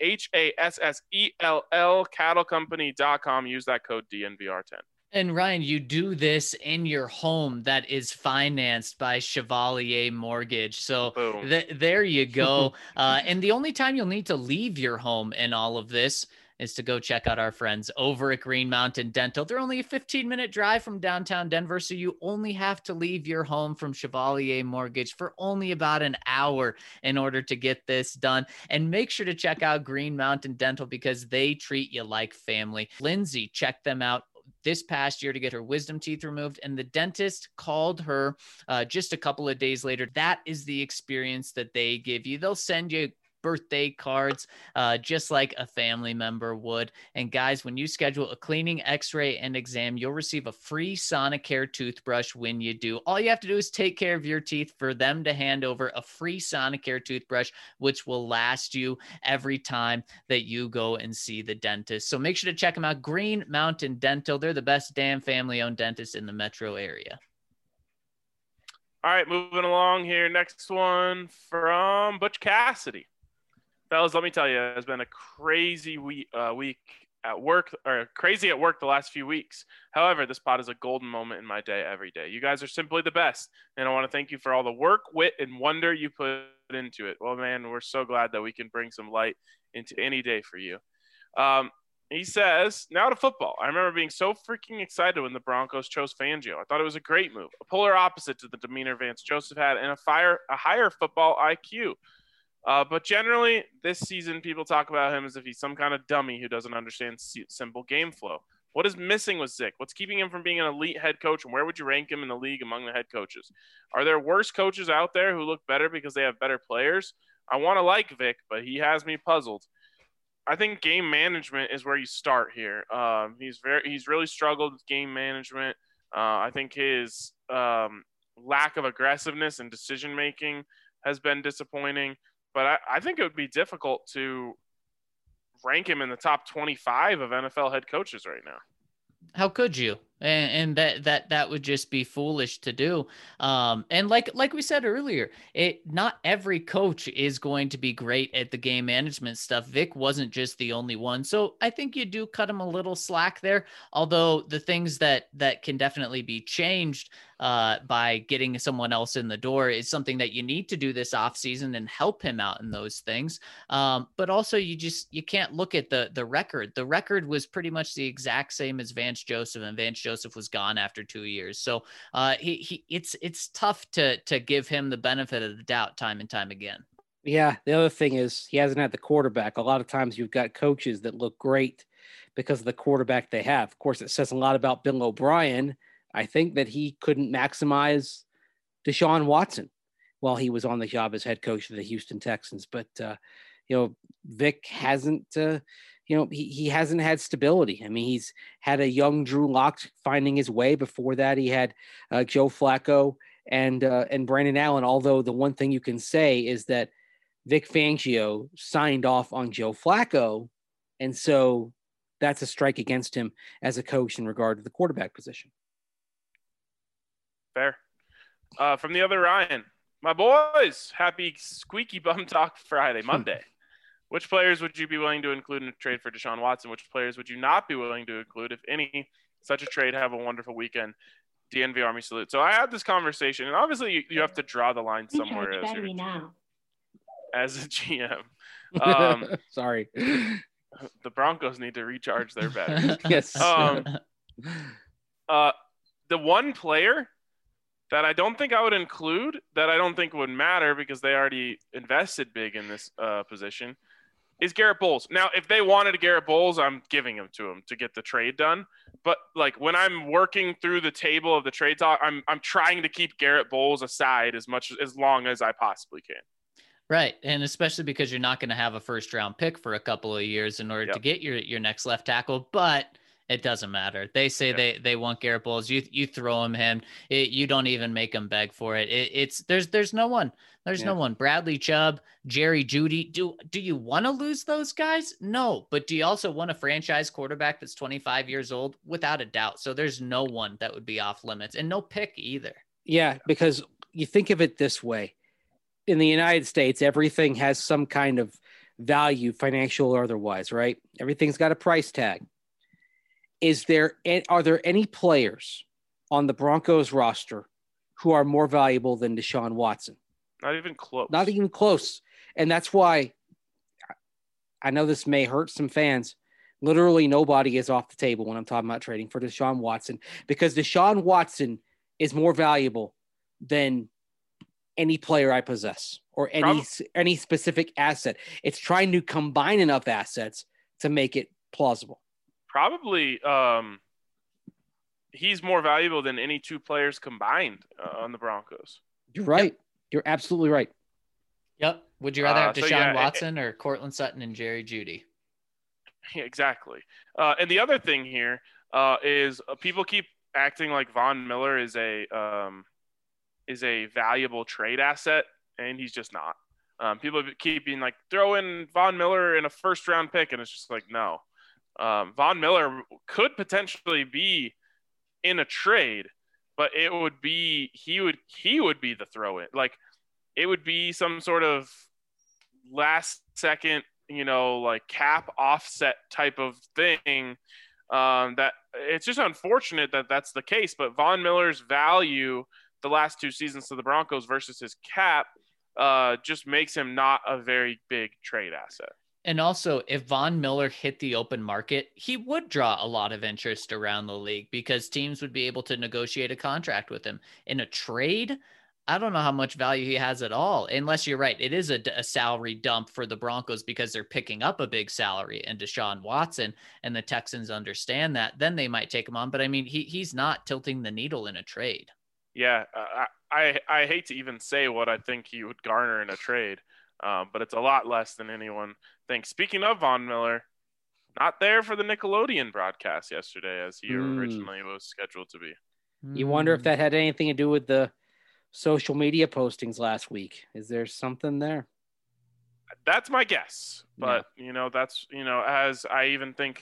HASSELL, cattlecompany.com. Use that code DNVR10. And Ryan, you do this in your home that is financed by Chevalier Mortgage. So there you go. And the only time you'll need to leave your home in all of this is to go check out our friends over at Green Mountain Dental. They're only a 15-minute drive from downtown Denver, so you only have to leave your home from Chevalier Mortgage for only about an hour in order to get this done. And make sure to check out Green Mountain Dental because they treat you like family. Lindsay checked them out this past year to get her wisdom teeth removed, and the dentist called her just a couple of days later. That is the experience that they give you. They'll send you birthday cards just like a family member would. And guys, when you schedule a cleaning, x-ray, and exam, you'll receive a free Sonicare toothbrush when you do. All you have to do is take care of your teeth for them to hand over a free Sonicare toothbrush, which will last you every time that you go and see the dentist. So make sure to check them out. Green Mountain Dental. They're the best damn family-owned dentist in the metro area. All right, moving along here. Next one from Butch Cassidy. Fellas, let me tell you, it's been a crazy week at work, or crazy at work the last few weeks. However, this pod is a golden moment in my day every day. You guys are simply the best, and I want to thank you for all the work, wit, and wonder you put into it. Well, man, we're so glad that we can bring some light into any day for you. He says, now to football. I remember being so freaking excited when the Broncos chose Fangio. I thought it was a great move, a polar opposite to the demeanor Vance Joseph had, and a higher football IQ. But generally, this season, people talk about him as if he's some kind of dummy who doesn't understand simple game flow. What is missing with Zick? What's keeping him from being an elite head coach, and where would you rank him in the league among the head coaches? Are there worse coaches out there who look better because they have better players? I want to like Vic, but he has me puzzled. I think game management is where you start here. He's really struggled with game management. I think his lack of aggressiveness and decision-making has been disappointing. But I think it would be difficult to rank him in the top 25 of NFL head coaches right now. How could you? And that would just be foolish to do. And like we said earlier, not every coach is going to be great at the game management stuff. Vic wasn't just the only one. So I think you do cut him a little slack there. Although the things that can definitely be changed by getting someone else in the door is something that you need to do this offseason and help him out in those things. But also you can't look at the record. The record was pretty much the exact same as Vance Joseph, and Vance Joseph was gone after 2 years. So it's tough to give him the benefit of the doubt time and time again. Yeah. The other thing is he hasn't had the quarterback. A lot of times you've got coaches that look great because of the quarterback they have. Of course, it says a lot about Bill O'Brien. I think that he couldn't maximize Deshaun Watson while he was on the job as head coach of the Houston Texans. But, Vic hasn't, he hasn't had stability. I mean, he's had a young Drew Lock finding his way. Before that, he had Joe Flacco and Brandon Allen. Although the one thing you can say is that Vic Fangio signed off on Joe Flacco. And so that's a strike against him as a coach in regard to the quarterback position. Fair. From the other Ryan, my boys, happy Squeaky Bum Talk Friday, Monday. Which players would you be willing to include in a trade for Deshaun Watson? Which players would you not be willing to include, if any? Such a trade. Have a wonderful weekend. DNV Army salute. So I had this conversation, and obviously you have to draw the line somewhere as a GM. Sorry. The Broncos need to recharge their batteries. Yes. The one player that I don't think I would include, that I don't think would matter because they already invested big in this position, is Garrett Bowles. Now, if they wanted Garrett Bowles, I'm giving him to him to get the trade done. But like when I'm working through the table of the trade talk, I'm trying to keep Garrett Bowles aside as long as I possibly can. Right. And especially because you're not going to have a first round pick for a couple of years in order to get your next left tackle, but it doesn't matter. They say they want Garrett Bowles. You throw him. You don't even make him beg for it. There's no one. There's no one. Bradley Chubb, Jerry Jeudy. Do you want to lose those guys? No. But do you also want a franchise quarterback that's 25 years old? Without a doubt. So there's no one that would be off limits, and no pick either. Yeah, because you think of it this way. In the United States, everything has some kind of value, financial or otherwise, right? Everything's got a price tag. Are there any players on the Broncos roster who are more valuable than Deshaun Watson? Not even close. Not even close. And that's why I know this may hurt some fans. Literally nobody is off the table when I'm talking about trading for Deshaun Watson, because Deshaun Watson is more valuable than any player I possess or any specific asset. It's trying to combine enough assets to make it plausible. Probably he's more valuable than any two players combined on the Broncos. You're right. Yep. You're absolutely right. Yep. Would you rather have Deshaun Watson or Cortland Sutton and Jerry Jeudy? Exactly. And the other thing here is people keep acting like Von Miller is a valuable trade asset, and he's just not. People keep being like, throw in Von Miller in a first round pick, and it's just like, no. Von Miller could potentially be in a trade, but he would be the throw in. Like it would be some sort of last second, like cap offset type of thing. That it's just unfortunate that that's the case, but Von Miller's value the last two seasons to the Broncos versus his cap just makes him not a very big trade asset. And also, if Von Miller hit the open market, he would draw a lot of interest around the league because teams would be able to negotiate a contract with him. In a trade, I don't know how much value he has at all, unless you're right. It is a salary dump for the Broncos because they're picking up a big salary and Deshaun Watson, and the Texans understand that. Then they might take him on. But, I mean, he's not tilting the needle in a trade. Yeah, I hate to even say what I think he would garner in a trade, but it's a lot less than anyone thinks. Speaking of Von Miller, not there for the Nickelodeon broadcast yesterday as he originally was scheduled to be. You wonder if that had anything to do with the social media postings last week. Is there something there? That's my guess. But, that's, as I even think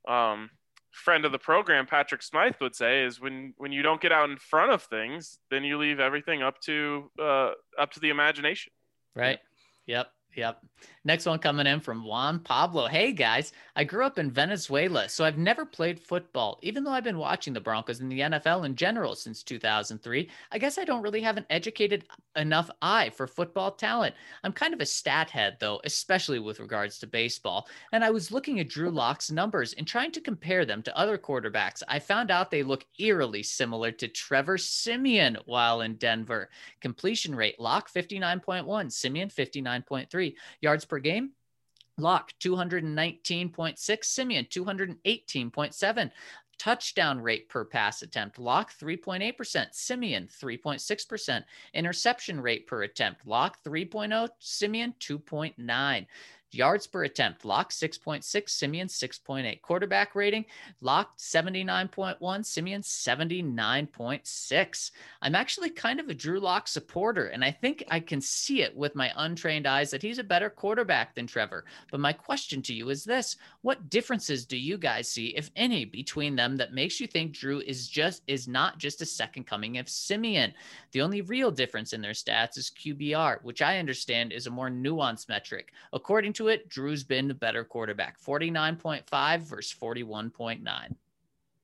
friend of the program, Patrick Smythe, would say, is when you don't get out in front of things, then you leave everything up to the imagination. Right. Yep. Next one coming in from Juan Pablo. Hey guys, I grew up in Venezuela, so I've never played football, even though I've been watching the Broncos and the NFL in general since 2003. I guess I don't really have an educated enough eye for football talent. I'm kind of a stat head though, especially with regards to baseball. And I was looking at Drew Lock's numbers and trying to compare them to other quarterbacks. I found out they look eerily similar to Trevor Siemian while in Denver. Completion rate, Lock 59.1, Siemian 59.3. Yards per game, Lock 219.6, Siemian 218.7. Touchdown rate per pass attempt, Lock 3.8%, Siemian 3.6%. Interception rate per attempt, Lock 3.0, Siemian 2.9. Yards per attempt, Lock 6.6, Siemian 6.8. Quarterback rating, Lock 79.1, Siemian 79.6. I'm actually kind of a Drew Lock supporter, and I think I can see it with my untrained eyes that he's a better quarterback than Trevor. But my question to you is this: what differences do you guys see, if any, between them that makes you think Drew is not just a second coming of Siemian? The only real difference in their stats is QBR, which I understand is a more nuanced metric. According to it, Drew's been the better quarterback, 49.5 versus 41.9.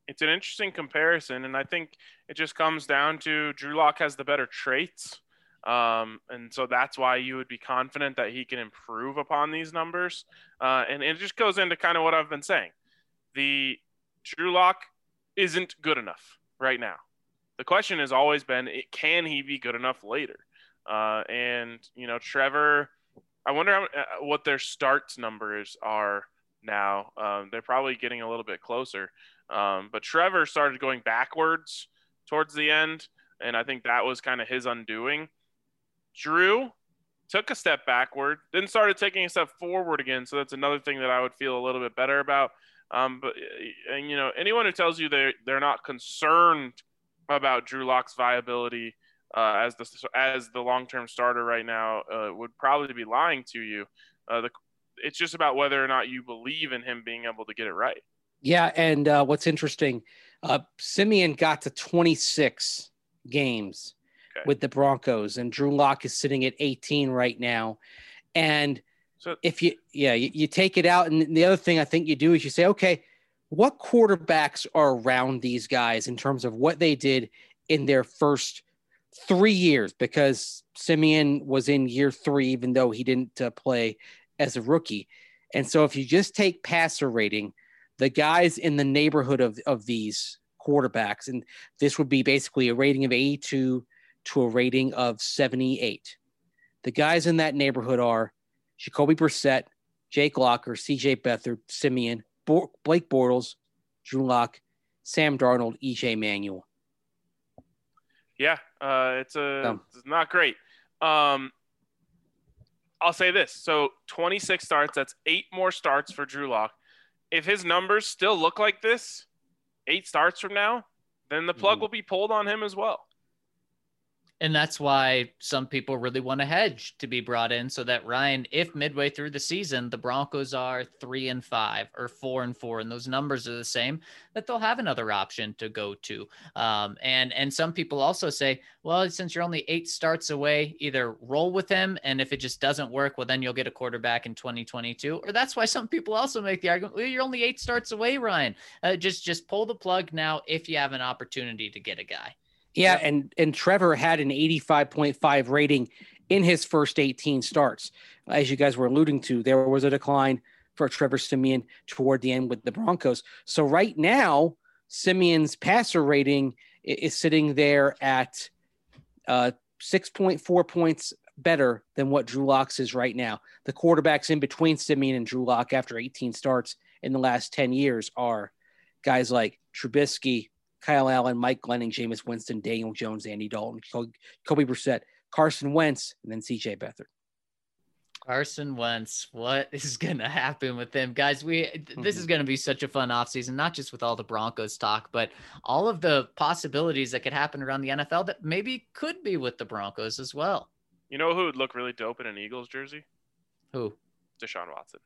it's an interesting comparison, and I think it just comes down to Drew Lock has the better traits. And so that's why you would be confident that he can improve upon these numbers. And it just goes into kind of what I've been saying. The Drew Lock isn't good enough right now. The question has always been, can he be good enough later? And, Trevor, I wonder what their starts numbers are now. They're probably getting a little bit closer. But Trevor started going backwards towards the end, and I think that was kind of his undoing. Drew took a step backward, then started taking a step forward again. So that's another thing that I would feel a little bit better about. But anyone who tells you they're not concerned about Drew Lock's viability as the long-term starter right now would probably be lying to you. It's just about whether or not you believe in him being able to get it right. Yeah, and what's interesting, Siemian got to 26 games with the Broncos, and Drew Lock is sitting at 18 right now. And so if you take it out, and the other thing I think you do is you say, okay, what quarterbacks are around these guys in terms of what they did in their first 3 years? Because Siemian was in year 3, even though he didn't play as a rookie. And so if you just take passer rating, the guys in the neighborhood of these quarterbacks, and this would be basically a rating of 82 to a rating of 78. The guys in that neighborhood are Jacoby Brissett, Jake Locker, CJ Beathard, Siemian, Blake Bortles, Drew Lock, Sam Darnold, EJ Manuel. Yeah, it's not great. I'll say this. So 26 starts, that's 8 more starts for Drew Lock. If his numbers still look like this 8 starts from now, then the plug will be pulled on him as well. And that's why some people really want a hedge to be brought in so that, Ryan, if midway through the season, the Broncos are 3-5 or 4-4, and those numbers are the same, that they'll have another option to go to. And some people also say, well, since you're only 8 starts away, either roll with him, and if it just doesn't work, well, then you'll get a quarterback in 2022. Or that's why some people also make the argument, well, you're only 8 starts away, Ryan. Just pull the plug now if you have an opportunity to get a guy. Yeah, and Trevor had an 85.5 rating in his first 18 starts. As you guys were alluding to, there was a decline for Trevor Siemian toward the end with the Broncos. So right now, Siemian's passer rating is sitting there at 6.4 points better than what Drew Lock's is right now. The quarterbacks in between Siemian and Drew Lock after 18 starts in the last 10 years are guys like Trubisky, Kyle Allen, Mike Glennon, Jameis Winston, Daniel Jones, Andy Dalton, Kobe Brissett, Carson Wentz, and then CJ Beathard. Carson Wentz, what is going to happen with him? Guys, this is going to be such a fun offseason, not just with all the Broncos talk, but all of the possibilities that could happen around the NFL that maybe could be with the Broncos as well. You know who would look really dope in an Eagles jersey? Who? Deshaun Watson.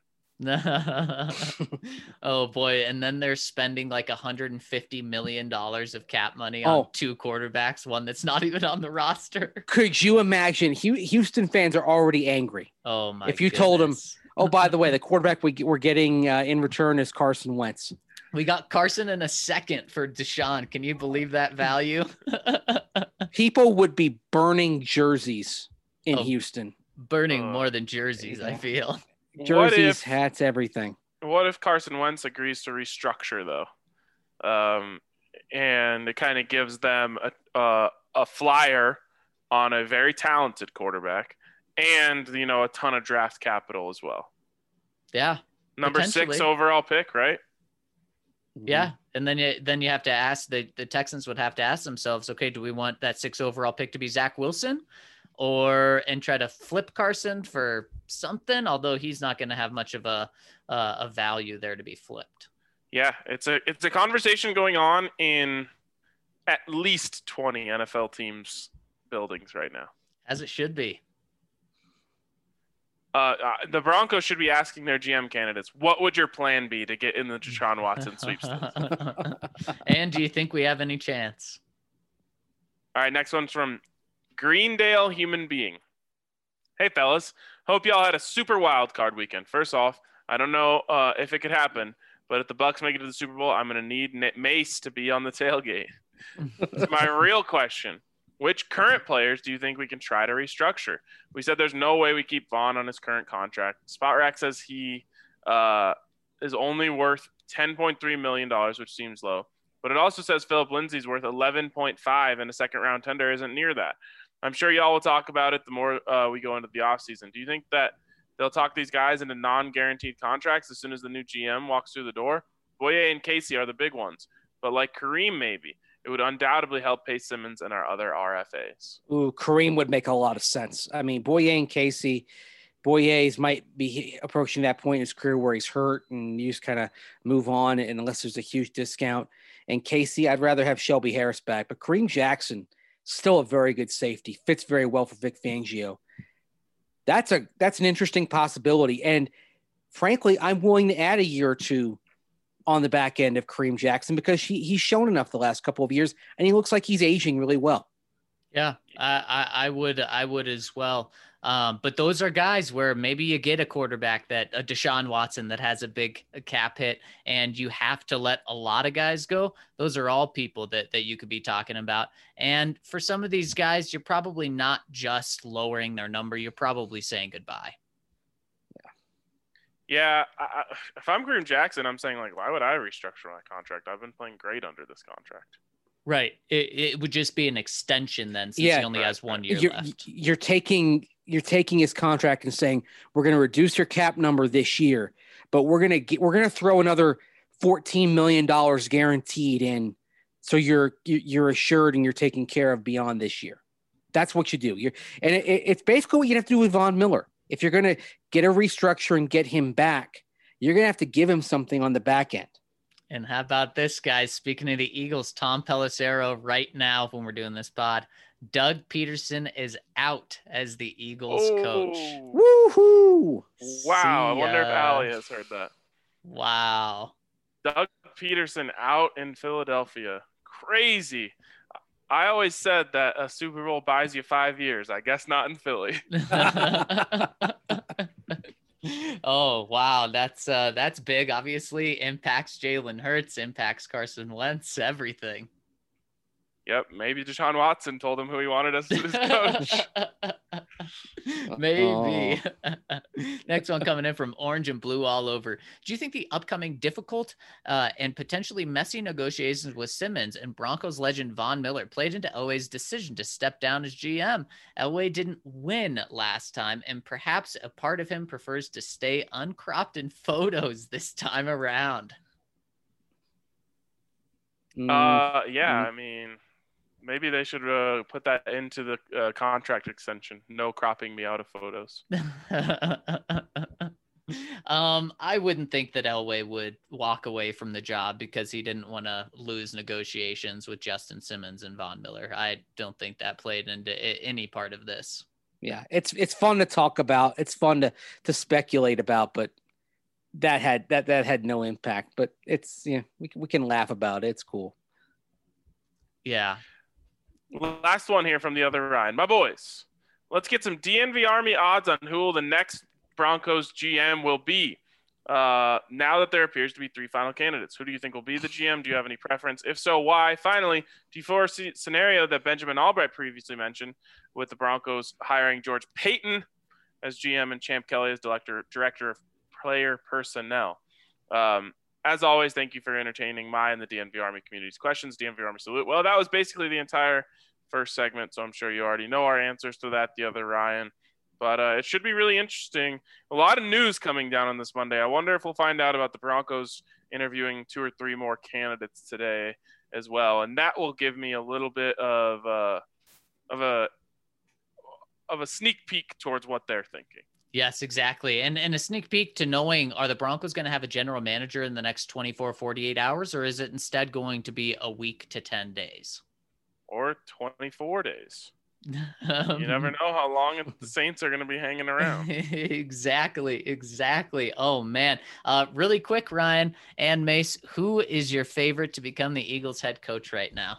Oh boy, and then they're spending like $150 million of cap money on 2 quarterbacks, one that's not even on the roster. Could you imagine? Houston fans are already angry. Oh my! If you told them, oh, by the way, the quarterback we're getting in return is Carson Wentz. We got Carson in a second for Deshaun. Can you believe that value? People would be burning jerseys in Houston. Burning more than jerseys, I feel. Jerseys, hats, everything. What if Carson Wentz agrees to restructure, though? And it kind of gives them a flyer on a very talented quarterback and, a ton of draft capital as well. Yeah. Number 6 overall pick, right? Yeah. And then you have to ask, the Texans would have to ask themselves, okay, do we want that 6 overall pick to be Zach Wilson? And try to flip Carson for something, although he's not going to have much of a value there to be flipped. Yeah, it's a conversation going on in at least 20 NFL teams' buildings right now. As it should be. The Broncos should be asking their GM candidates, what would your plan be to get in the Deshaun Watson sweepstakes? And do you think we have any chance? All right, next one's from Greendale Human Being. Hey, fellas. Hope y'all had a super wild card weekend. First off, I don't know if it could happen, But if the Bucs make it to the Super Bowl, I'm going to need Mace to be on the tailgate. So my real question, which current players do you think we can try to restructure? We said there's no way we keep Vaughn on his current contract. Spotrac says he is only worth $10.3 million, which seems low. But it also says Philip Lindsay's worth 11.5 and a second-round tender isn't near that. I'm sure y'all will talk about it the more we go into the offseason. Do you think that they'll talk these guys into non-guaranteed contracts as soon as the new GM walks through the door? Boye and Casey are the big ones. But like Kareem maybe, it would undoubtedly help Pace Simmons and our other RFAs. Ooh, Kareem would make a lot of sense. I mean, Boye and Casey, Boye's might be approaching that point in his career where he's hurt and you just kind of move on, and unless there's a huge discount. And Casey, I'd rather have Shelby Harris back. But Kareem Jackson, still a very good safety, fits very well for Vic Fangio. That's an interesting possibility. And frankly, I'm willing to add a year or two on the back end of Kareem Jackson because he's shown enough the last couple of years, and he looks like he's aging really well. Yeah, I would as well. But those are guys where maybe you get a quarterback that a Deshaun Watson that has a big cap hit and you have to let a lot of guys go. Those are all people that you could be talking about. And for some of these guys, you're probably not just lowering their number. You're probably saying goodbye. Yeah. If I'm Kareem Jackson, I'm saying, like, why would I restructure my contract? I've been playing great under this contract. Right. It would just be an extension then, since he only has 1 year left. You're taking his contract and saying, we're going to reduce your cap number this year, but we're going to throw another $14 million guaranteed in. So you're assured and you're taken care of beyond this year. That's what you do. It's basically what you have to do with Von Miller. If you're going to get a restructure and get him back, you're going to have to give him something on the back end. And how about this, guys? Speaking of the Eagles, Tom Pelissero right now when we're doing this pod, Doug Peterson is out as the Eagles coach. Woohoo! Wow. I wonder if Allie has heard that. Wow. Doug Peterson out in Philadelphia. Crazy. I always said that a Super Bowl buys you 5 years. I guess not in Philly. Oh, wow. That's big. Obviously impacts Jalen Hurts, impacts Carson Wentz, everything. Yep. Maybe Deshaun Watson told him who he wanted as his coach. Maybe. Next one coming in from Orange and Blue all over. Do you think the upcoming difficult and potentially messy negotiations with Simmons and Broncos legend Von Miller played into Elway's decision to step down as GM? Elway didn't win last time, and perhaps a part of him prefers to stay uncropped in photos this time around. I mean, maybe they should put that into the contract extension. No cropping me out of photos. I wouldn't think that Elway would walk away from the job because he didn't want to lose negotiations with Justin Simmons and Von Miller. I don't think that played into any part of this. Yeah, it's fun to talk about. It's fun to speculate about, but that had no impact. But it's we can laugh about it. It's cool. Yeah. Last one here from the other Ryan. My boys, let's get some DNV Army odds on who the next Broncos GM will be. Now that there appears to be 3 final candidates, who do you think will be the GM? Do you have any preference? If so, why? Finally, do you foresee a scenario that Benjamin Albright previously mentioned with the Broncos hiring George Payton as GM and Champ Kelly as director of player personnel? As always, thank you for entertaining my and the DNV Army community's questions. DNV Army salute. Well, that was basically the entire first segment, so I'm sure you already know our answers to that, the other Ryan. But it should be really interesting. A lot of news coming down on this Monday. I wonder if we'll find out about the Broncos interviewing 2 or 3 more candidates today as well, and that will give me a little bit of a sneak peek towards what they're thinking. Yes, exactly. And a sneak peek to knowing, are the Broncos going to have a general manager in the next 24, 48 hours, or is it instead going to be a week to 10 days? Or 24 days. You never know how long the Saints are going to be hanging around. Exactly. Oh, man. Really quick, Ryan and Mace, who is your favorite to become the Eagles head coach right now?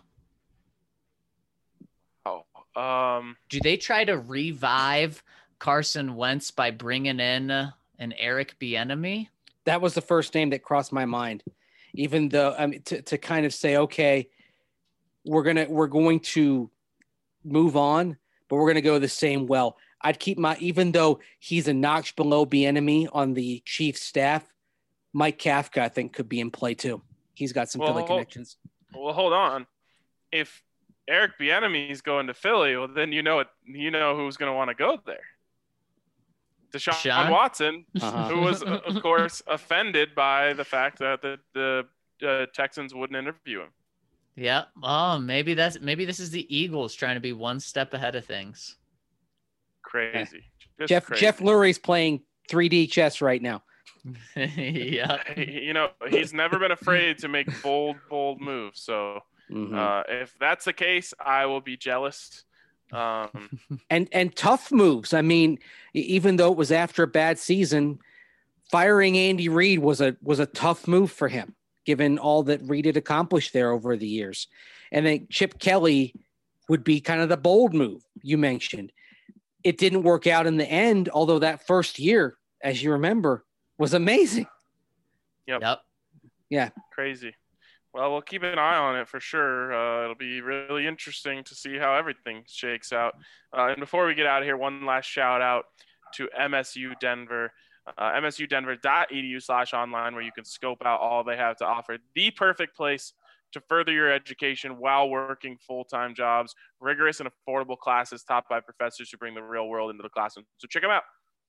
Do they try to revive Carson Wentz by bringing in an Eric Bieniemy? That was the first name that crossed my mind, even though to kind of say, okay, we're going to move on, but we're going to go the same well. I'd keep even though he's a notch below Bieniemy on the Chiefs staff, Mike Kafka, I think, could be in play too. He's got some Philly connections. Well, hold on. If Eric Bieniemy is going to Philly, well, then you know who's going to want to go there. Deshaun Watson, who was, of course, offended by the fact that the Texans wouldn't interview him. Yeah. Oh, maybe this is the Eagles trying to be one step ahead of things. Crazy. Jeff Lurie's playing 3D chess right now. Yeah. He's never been afraid to make bold moves. So if that's the case, I will be jealous. And tough moves. I mean, even though it was after a bad season, firing Andy Reid was a tough move for him, given all that Reid had accomplished there over the years. And then Chip Kelly would be kind of the bold move you mentioned. It didn't work out in the end, although that first year, as you remember, was amazing. Yep. Yeah. Crazy. Well, we'll keep an eye on it for sure. It'll be really interesting to see how everything shakes out. And before we get out of here, one last shout out to MSU Denver, msudenver.edu/online, where you can scope out all they have to offer. The perfect place to further your education while working full-time jobs, rigorous and affordable classes taught by professors who bring the real world into the classroom. So check them out.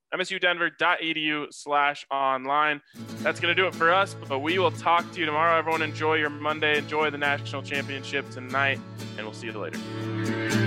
msudenver.edu/online. That's going to do it for us, but we will talk to you tomorrow. Everyone enjoy your Monday. Enjoy the national championship tonight, and we'll see you later.